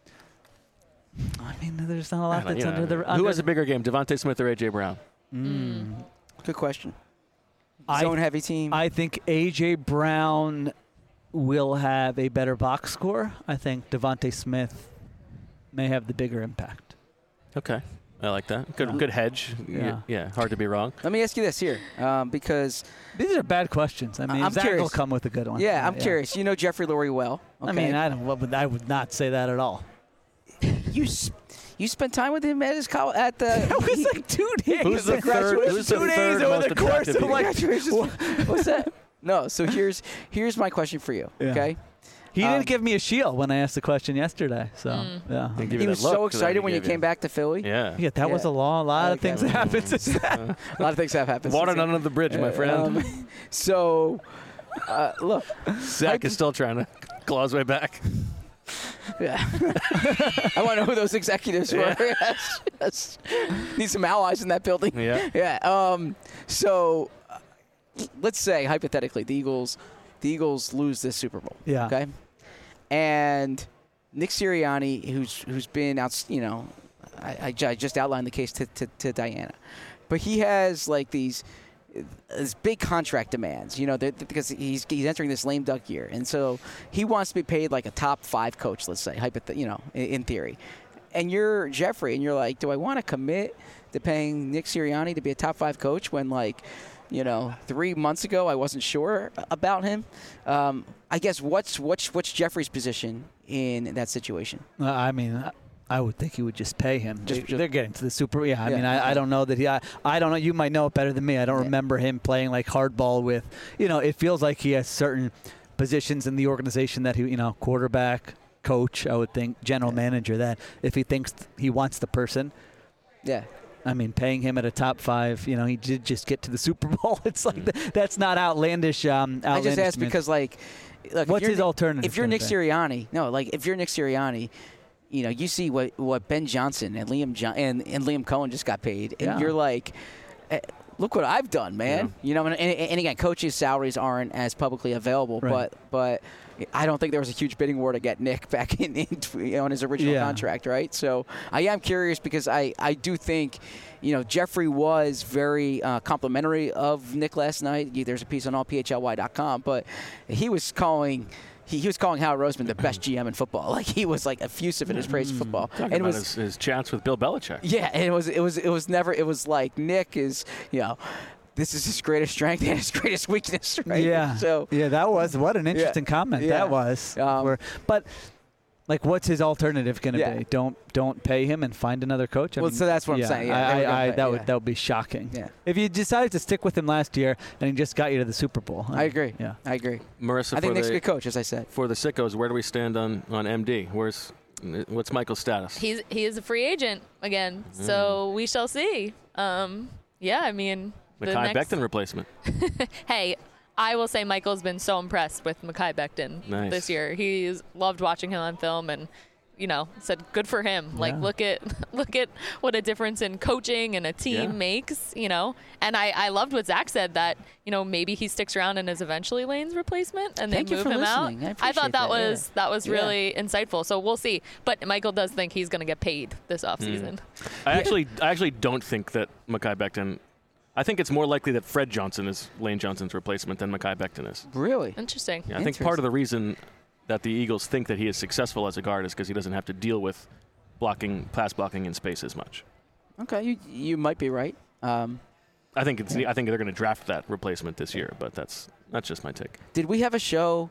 I mean, there's not a lot that's You know, under the. who under has a bigger game, Devontae Smith or A J Brown? Good question. I- Zone heavy team. I think A J Brown will have a better box score. I think Devontae Smith may have the bigger impact. Okay, I like that. Good, good hedge. Yeah. yeah, hard to be wrong. Let me ask you this here, um, because These are bad questions. I mean, I'm Zach will curious. come with a good one. yeah, I'm curious. You know Jeffrey Lurie well. Okay? I mean, I don't. what would- I would not say that at all. you s- you spent time with him at his college at the. It was like two days. Who's the of third- graduation. who's the two third days over most the course attractive of like. Graduation- What's that? No. So here's here's my question for you. Yeah. Okay. He Um, didn't give me a shield when I asked the question yesterday. So yeah, Didn't give He you was that look so that excited he when you gave came back to Philly. Yeah. yeah, that was Yeah. a long, lot of Okay. things that happened since then. A lot of things have happened. Water since then. under the bridge, my Uh, friend. um, so, uh, look, Zach is still trying to claw his way back. yeah. I want to know who those executives were. Yeah. Yes, yes. Need some allies in that building. Yeah. Yeah. Um, so, uh, let's say hypothetically, the Eagles, the Eagles lose this Super Bowl. Yeah. Okay. And Nick Sirianni, who's who's been out, you know, I, I ju- I just outlined the case to, to, to Diana, but he has like these. These big contract demands, you know, they're- because he's he's entering this lame duck year, and so he wants to be paid like a top five coach, let's say, hypoth- you know, in, in theory. And you're Jeffrey, and you're like, do I want to commit to paying Nick Sirianni to be a top five coach when, like, you know, three months ago I wasn't sure about him? Um, I guess what's what's what's Jeffrey's position in that situation? Uh, I mean, I- I would think he would just pay him. Just- they, just- they're getting to the Super. Yeah, I Yeah, mean, I, I okay. don't know that he. I, I don't know. You might know it better than me. I don't Yeah. remember him playing like hardball with. You know, it feels like he has certain positions in the organization that he, you know, quarterback, coach. I would think general Yeah. manager. That if he thinks he wants the person, Yeah. I mean, paying him at a top five. You know, he did just get to the Super Bowl. It's like th- that's not outlandish. Um, I just outlandish asked to me. because, like, look, if What's you're his Nick- alternative If you're gonna Nick be? Sirianni, no, like if you're Nick Sirianni, you know, you see what, what Ben Johnson and Liam jo- and, and Liam Cohen just got paid, and Yeah. you're like, eh, look what I've done, man. You know, and, and, and again, coaches' salaries aren't as publicly available, Right. but but I don't think there was a huge bidding war to get Nick back in, in on his original Yeah. contract, right? So I am curious because I, I do think, you know, Jeffrey was very uh, complimentary of Nick last night. There's a piece on all P H L Y dot com, but he was calling he, he was calling Howard Roseman the best G M in football. Like he was like effusive in his praise of football. Talking and it about was his, his chance with Bill Belichick. yeah, and it was it was it was never it was like Nick is you know. This is his greatest strength and his greatest weakness, right? Yeah. So yeah, that was what an interesting comment Yeah. that was. Um, Where- but like, what's his alternative going to Yeah. be? Don't don't pay him and find another coach. I Well, mean, so that's what I'm yeah, saying. Yeah, I, they were gonna I, I, pay- that would yeah. that would be shocking. Yeah. If you decided to stick with him last year and he just got you to the Super Bowl. I agree. Yeah. I agree. Marissa, I think for Nick's a the, good coach, as I said. for the sickos, where do we stand on, on M D? Where's What's Michael's status? He's he is a free agent again, so we shall see. Um, yeah, I mean, the Mekhi next, Becton replacement. Hey, I will say Michael's been so impressed with Mekhi Becton Nice. this year. He's loved watching him on film and, you know, said good for him. Like Yeah. look at look at what a difference in coaching and a team Yeah. makes, you know. And I, I loved what Zach said that, you know, maybe he sticks around and is eventually Lane's replacement and Thank they you move for him out. listening. I I appreciate thought that, that, yeah. was that was Yeah. really insightful. So we'll see. But Michael does think he's gonna get paid this offseason. I actually I actually don't think that Mekhi Becton. I think it's more likely that Fred Johnson is Lane Johnson's replacement than Mekhi Becton is. Really? Interesting. Yeah, I think part of the reason that the Eagles think that he is successful as a guard is because he doesn't have to deal with blocking, pass blocking in space as much. Okay, you you might be right. Um, I think it's. I think they're going to draft that replacement this year, but that's that's just my take. did we have a show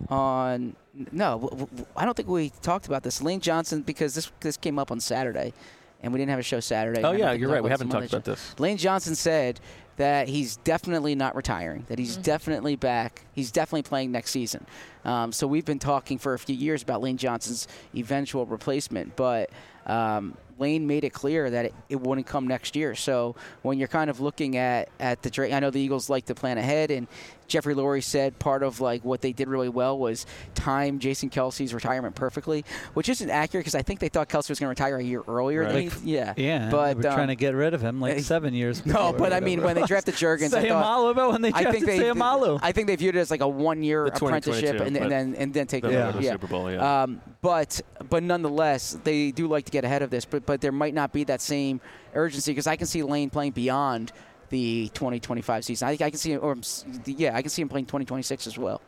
on? No, w- w- I don't think we talked about this. Lane Johnson, because this this came up on Saturday, and we didn't have a show Saturday. Oh I don't yeah, think you're we right. We talked haven't some talked other about show. this. Lane Johnson said that he's definitely not retiring, that he's definitely back. He's definitely playing next season. Um, so we've been talking for a few years about Lane Johnson's eventual replacement, but um, Lane made it clear that it, it wouldn't come next year. So when you're kind of looking at, at the Drake, I know the Eagles like to plan ahead, and Jeffrey Lurie said part of like what they did really well was time Jason Kelsey's retirement perfectly, which isn't accurate because I think they thought Kelsey was going to retire a year earlier. Than Right. he, yeah, Yeah, but we're um, trying to get rid of him like uh, seven years. no, before, but I mean whatever when they it was. drafted Juergens, I thought. Sayamalu, about when they I drafted think they, Sayamalu. I think they viewed it as like a one-year The twenty apprenticeship, twenty-two, and, then- but and then and then take Then it they Yeah. go to the yeah. Super Bowl. Yeah. Um, but but nonetheless, they do like to get ahead of this. But but there might not be that same urgency because I can see Lane playing beyond the twenty twenty-five season. I, I can see him, or yeah, I can see him playing twenty twenty-six as well.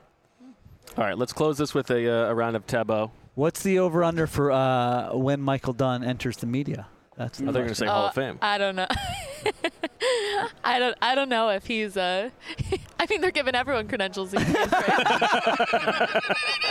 All right, let's close this with a, uh, a round of taboo. What's the over/under for uh, when Michael Dunn enters the media? That's the I thought you were going to say Hall of Oh, Fame. I don't know. I don't. I don't know if he's. Uh, I mean, they're giving everyone credentials. These days, right?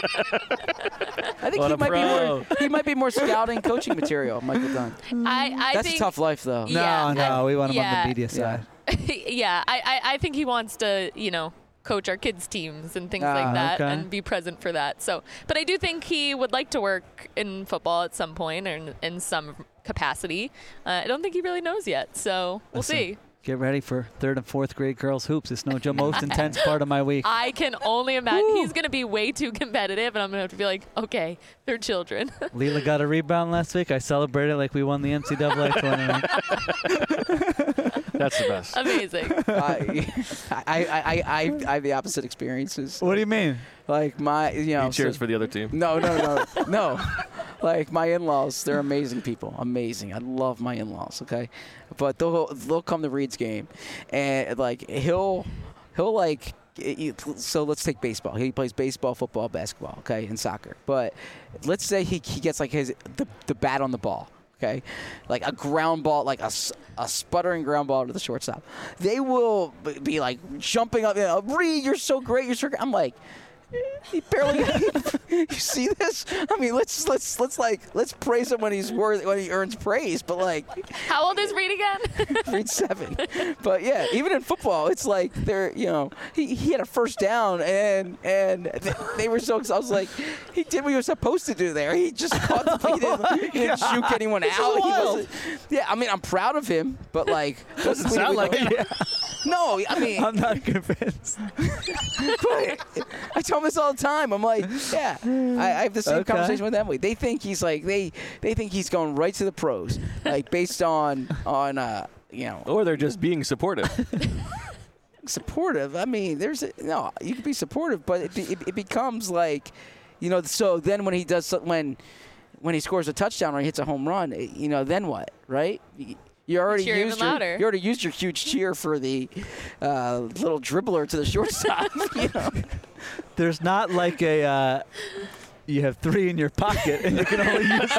I think What he a might be pro. more. He might be more scouting, coaching material. Michael Dunn. I. I That's think, a tough life, though. No, Yeah, no, I- we want him on yeah. the media Yeah. side. yeah, I, I. I think he wants to. You know. Coach our kids' teams and things Ah, like that, okay. and be present for that. So, but I do think he would like to work in football at some point or in, in some capacity. Uh, I don't think he really knows yet, so we'll Listen, see. Get ready for third and fourth grade girls hoops. It's no joke. Most intense part of my week. I can only imagine he's going to be way too competitive, and I'm going to have to be like, okay, they're children. Leela got a rebound last week. I celebrated like we won the N C double A tournament. That's the best. Amazing. I, I, I, I, I, I have the opposite experiences. What do you mean? Like my, you know. You cheers so- for the other team. No, no, no, no. Like my in-laws, they're amazing people. Amazing. I love my in-laws. Okay, but they'll they'll come to Reed's game, and like he'll he'll like. So let's take baseball. He plays baseball, football, basketball. Okay, and soccer. But let's say he he gets like his the the bat on the ball. Okay, like a ground ball, like a, s- a sputtering ground ball to the shortstop. They will b- be like jumping up. You know, Reed, you're so great. You're so great. I'm like. He barely. You see this? I mean, let's let's let's like let's praise him when he's worth when he earns praise. But like, How old is Reed again? Reed seven. But yeah, even in football, it's like they're you know he, he had a first down and and they, they were so. I was like, he did what he was supposed to do there. He just caught the he didn't, he didn't juke anyone out. He wasn't, yeah, I mean, I'm proud of him, but like Doesn't sound like it. No, I mean, I'm not convinced. but I tell them this all the time. I'm like, yeah, I, I have the same Okay. conversation with Emily. They think he's like they they think he's going right to the pros, like based on on uh you know Or they're just being supportive. supportive. I mean, there's a, no you can be supportive, but it, be, it it becomes like, you know. So then when he does so- when when he scores a touchdown or he hits a home run, it- you know, then what, right? You already Cheer even used your, louder. you already used your huge cheer for the uh, little dribbler to the shortstop. You know? there's not like a. Uh, you have three in your pocket and you can only use.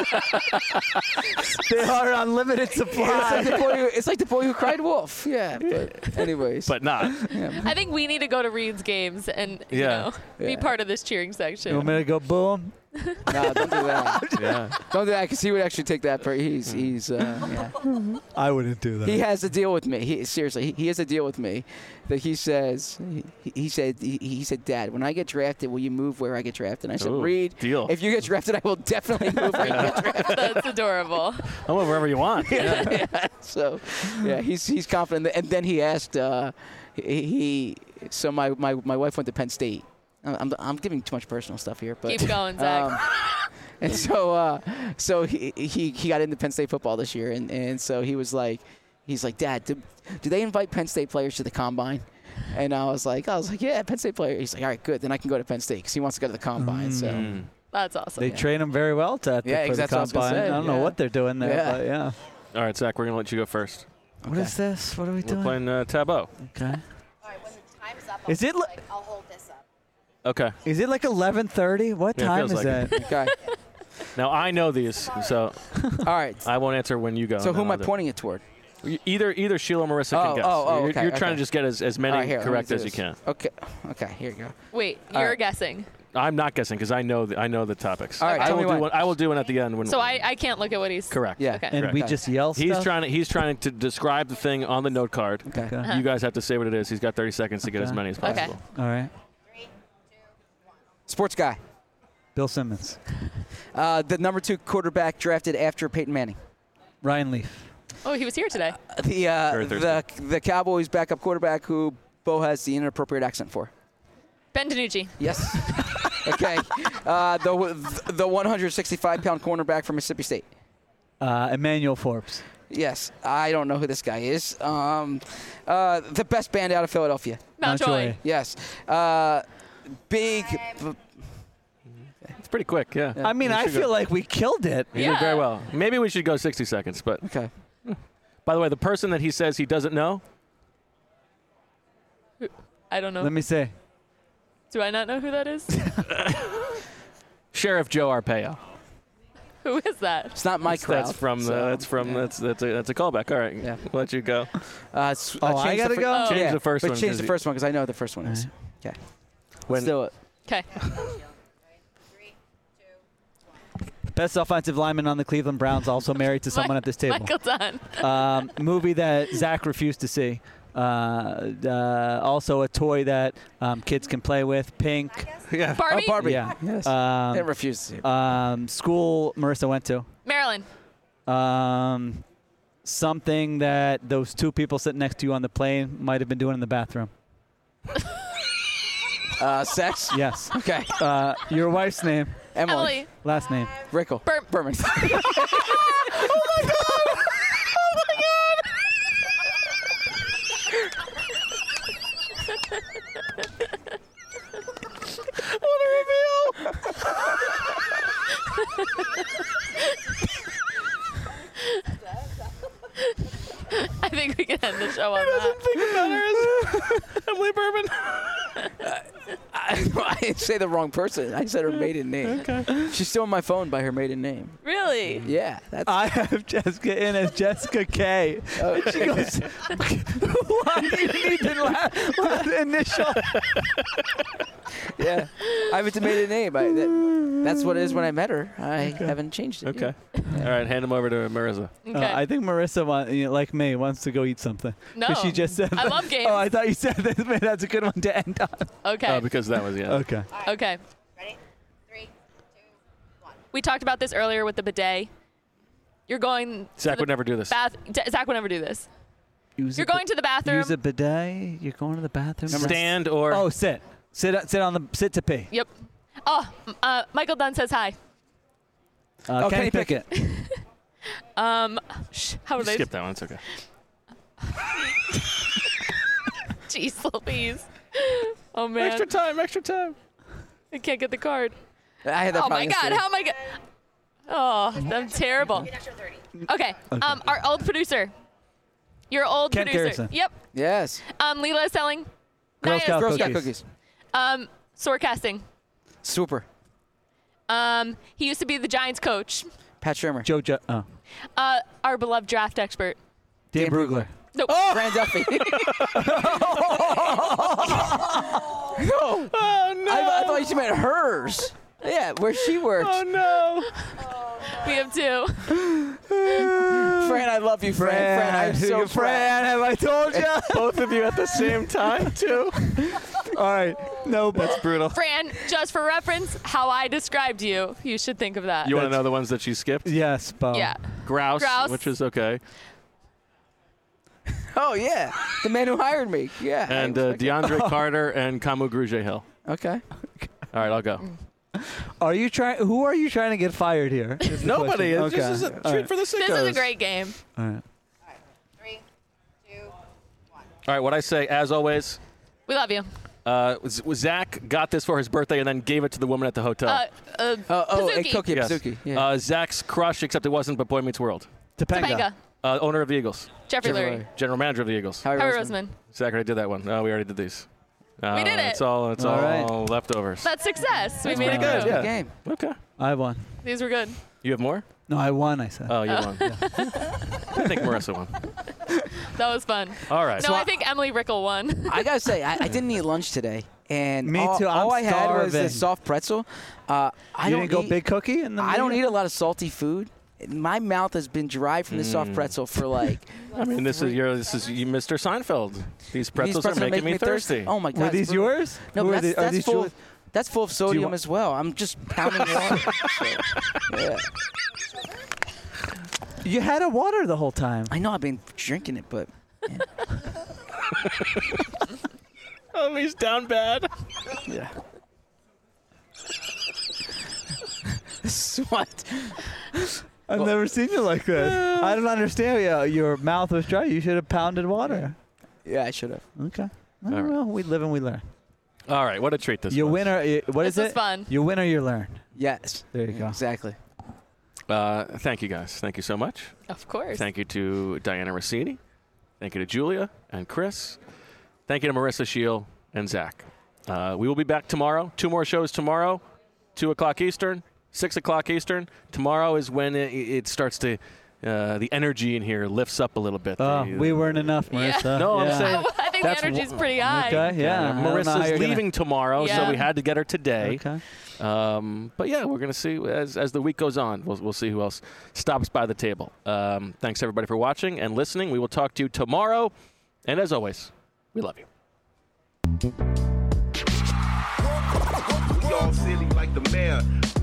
They are unlimited It's like, supply. the boy who, it's like the boy who cried wolf. Yeah, but anyways. But not. yeah. I think we need to go to Reed's games and you Yeah. know be Yeah. part of this cheering You section. want me to go boom? No, don't do that. Yeah. Don't do that because he would actually take that. For, he's he's uh, yeah. I wouldn't do that. He has a deal with me. He seriously, he, he has a deal with me that he says. He, he said he, he said, Dad, when I get drafted, will you move where I get drafted? And I said, Ooh, Reed, deal. if you get drafted, I will definitely move where you get drafted. That's adorable. I'll move wherever you want. Yeah. yeah. So, yeah, he's he's confident. And then he asked, uh, he, he so my, my my wife went to Penn State. I'm I'm giving too much personal stuff here, but Keep going, Zach. Um, and so, uh, so he, he he got into Penn State football this year, and, and so he was like, he's like, Dad, do, do they invite Penn State players to the combine? And I was like, I was like, yeah, Penn State player. He's like, all right, good, then I can go to Penn State because he wants to go to the combine. So, Mm. That's awesome. They train them very well to, Yeah, for the exactly what I was gonna combine. say, I don't know yeah. what they're doing there, Yeah. but yeah. All right, Zach, we're going to let you go first. What is this? What are we We're doing? playing uh, Tableau. Okay. All right, when the time's up, Is I'll, it li- like, I'll hold this up. Okay. Is it like eleven thirty? What Yeah, it time feels is like that? okay, Now, I know these, so all right. I won't answer when you go. So and who then am I I'll do- pointing it toward? Either either Sheila or Marissa Oh, can guess. oh, oh, you're okay, you're trying okay. to just get as, as many All right, here, let me correct do as you this. can. Okay, okay, here you go. Wait, All you're right. guessing. I'm not guessing because I know the, I know the topics. All right, I tell will me do what. one. I will do one at the end when. So I, I can't look at what he's. correct. Yeah. Okay. And Correct. we Okay. just yell He's stuff? trying to he's trying to describe the thing on the note card. Okay. Okay. Uh-huh. You guys have to say what it is. He's got thirty seconds to get as Okay. many as Okay. possible. All right. Three, two, one. Sports guy. Bill Simmons. Uh, the number two quarterback drafted after Peyton Manning. Ryan Leaf. Oh, he was here today. The uh, Very the the Cowboys backup quarterback who Bo has the inappropriate accent for. Ben DiNucci. Yes. okay. Uh, the the one hundred sixty-five pound cornerback from Mississippi State. Uh, Emmanuel Forbes. Yes. I don't know who this guy is. Um, uh, the best band out of Philadelphia. Mountjoy. Yes. Uh, big. It's pretty quick. Yeah. I mean, You I should go- feel like we killed it. You did very Yeah. well. Maybe we should go sixty seconds. But Okay. by the way, the person that he says he doesn't know, I don't know. Let me say. Do I not know who that is? Sheriff Joe Arpaio. Who is that? It's not my That's, crowd. that's from the. so, That's from. yeah. That's that's a that's a callback. All right. Yeah. We'll let you go. Uh, s- Oh, I changed the gotta fir- go? Change yeah, the first but one, change 'cause the you- first one because I know what the first one is. Okay. When Let's do it. Okay. Three, two, Best offensive lineman on the Cleveland Browns, also married to someone at this table. Michael Dunn. Um, movie that Zach refused to see. Uh, uh, also a toy that um, kids can play with. Pink. yeah. Barbie. Oh, Barbie. Yeah. Yes. Um, Didn't refuse to. um, school Marissa went to. Marilyn. Um, something that those two people sitting next to you on the plane might have been doing in the bathroom. Uh, sex. Yes. Okay. Uh, your wife's name, Emily. Emily. last name. Rickle. Bur- Berman. I think we can end the show on that. Emily Bourbon. I, I didn't say the wrong person. I said her maiden name. Okay. She's still on my phone by her maiden name. Really? Yeah. That's. I have Jessica in as Jessica K. And she goes, why do you need the la- la- initial? Yeah. I have a maiden name. I, that, that's what it is when I met her. I haven't changed it. Okay. All right. Hand him over to Marissa. Okay. Uh, I think Marissa, want, you know, like me, wants to go eat something. no. 'Cause she just said I that. love games. Oh, I thought you said that. Man, that's a good one to end on. Okay. Oh, because that was yeah. Okay. okay. ready? Three, two, one. We talked about this earlier with the bidet. You're going. to Zach the would never do this. Bath. D- Zach would never do this. Use You're a going to the bathroom. Use a bidet. You're going to the bathroom. Stand or. Oh, sit. Sit. Sit on the. Sit to pee. Yep. Oh, m- uh, Michael Dunn says hi. Uh, Oh, Kenny Kenny Pickett. Um, sh- how would I? Skip that one. It's okay. Jeez Louise. Oh man, Extra time. Extra time. I can't get the card. I had that Oh my problem God, yesterday. how am I? Go- oh, I'm terrible. An extra thirty. Okay. Um, our old producer. Your old Kent producer. Garrison. Yep. Yes. Um, Leela is selling. Girl Naya's- Scout Girl cookies. Scout cookies. Um, Forecasting. Super. Um, he used to be the Giants coach. Pat Shermer. Joe. Jo- oh. Uh, our beloved draft expert. Dan Dan Brugler. Nope. Fran Duffy. no. Oh, no. I, I thought you meant hers. Yeah, where she works. Oh, no. We have two. Fran, I love you, Fran. Fran, I'm so proud. Fran, have I told you? Both of you at the same time, too? All right. No, That's brutal. Fran, just for reference, how I described you, you should think of that. You want to know the ones that she skipped? Yes, Bo. Yeah. Grouse, Grouse. which is okay. Oh, yeah. The man who hired me. Yeah. I And uh, respect it. DeAndre Carter and Camu Grugier Hill. Okay. All right, I'll go. Are you trying? Who are you trying to get fired here? is the Nobody. question. It's just a All treat right. for the sickos. This is a great game. All right. Three, two, one. All right, what I say, as always, We love you. uh, Z- Zach got this for his birthday and then gave it to the woman at the hotel. Uh, uh, Uh, oh, and Pazuki. Cookie Yes. Pazuki. Yeah. Uh, Zach's crush, except it wasn't, but Boy Meets World. Topanga. Topanga. Uh, owner of the Eagles. Jeffrey Jeffrey Lurie. Lurie. General manager of the Eagles. Howie Harry Roseman. Roseman. Zach already did that one. No, we already did these. Uh, We did it. It's all, it's All all right. leftovers. That's success. We That's made it pretty good, through. yeah. Game. Okay. I won. These were good. You have more? No, I won. I said. Oh, you won. I think Marissa won. That was fun. All right. No, I think Emily Rickle won. I gotta say, I, I didn't eat lunch today, and Me all, too, I'm all I had was starving. this soft pretzel. Uh, I you don't didn't go eat, big cookie in the I don't meeting? eat a lot of salty food. My mouth has been dry from the Mm. soft pretzel for like. I mean, this is your, this is you, Mister Seinfeld. These pretzels, these pretzels are making make me thirsty. Oh my god! Were it's these brutal. yours? No, Who but are that's, they- are that's these full. Julie- That's full of sodium wa- as well. I'm just pounding water. So, yeah. You had a water the whole time. I know I've been drinking it, but Oh, he's down bad. yeah. What? I've Well- never seen you like this. I don't understand. Yeah, your mouth was dry. You should have pounded water. Yeah, I should have. Okay. I All don't right. know. We live and we learn. All right, what a treat this You was. win or you- what This is was it? fun. You win or you learn. Yes. There you go. Exactly. Uh, thank you, guys. Thank you so much. Of course. Thank you to Diana Rossini. Thank you to Julia and Chris. Thank you to Marissa Shield and Zach. Uh, we will be back tomorrow. Two more shows tomorrow, two o'clock Eastern, six o'clock Eastern. Tomorrow is when it, it starts to, uh, the energy in here lifts up a little bit. Oh, The- we weren't enough, Yeah. Marissa. No, I'm Yeah. saying- I, I think That's the energy's wh- pretty high. Okay, yeah. I don't know how Marissa's you're gonna- leaving tomorrow, so Yeah. we had to get her today. Okay. Um, but yeah, we're going to see as, as the week goes on. We'll, we'll see who else stops by the table. Um, thanks, everybody, for watching and listening. We will talk to you tomorrow. And as always, we love you. We all silly like the mayor.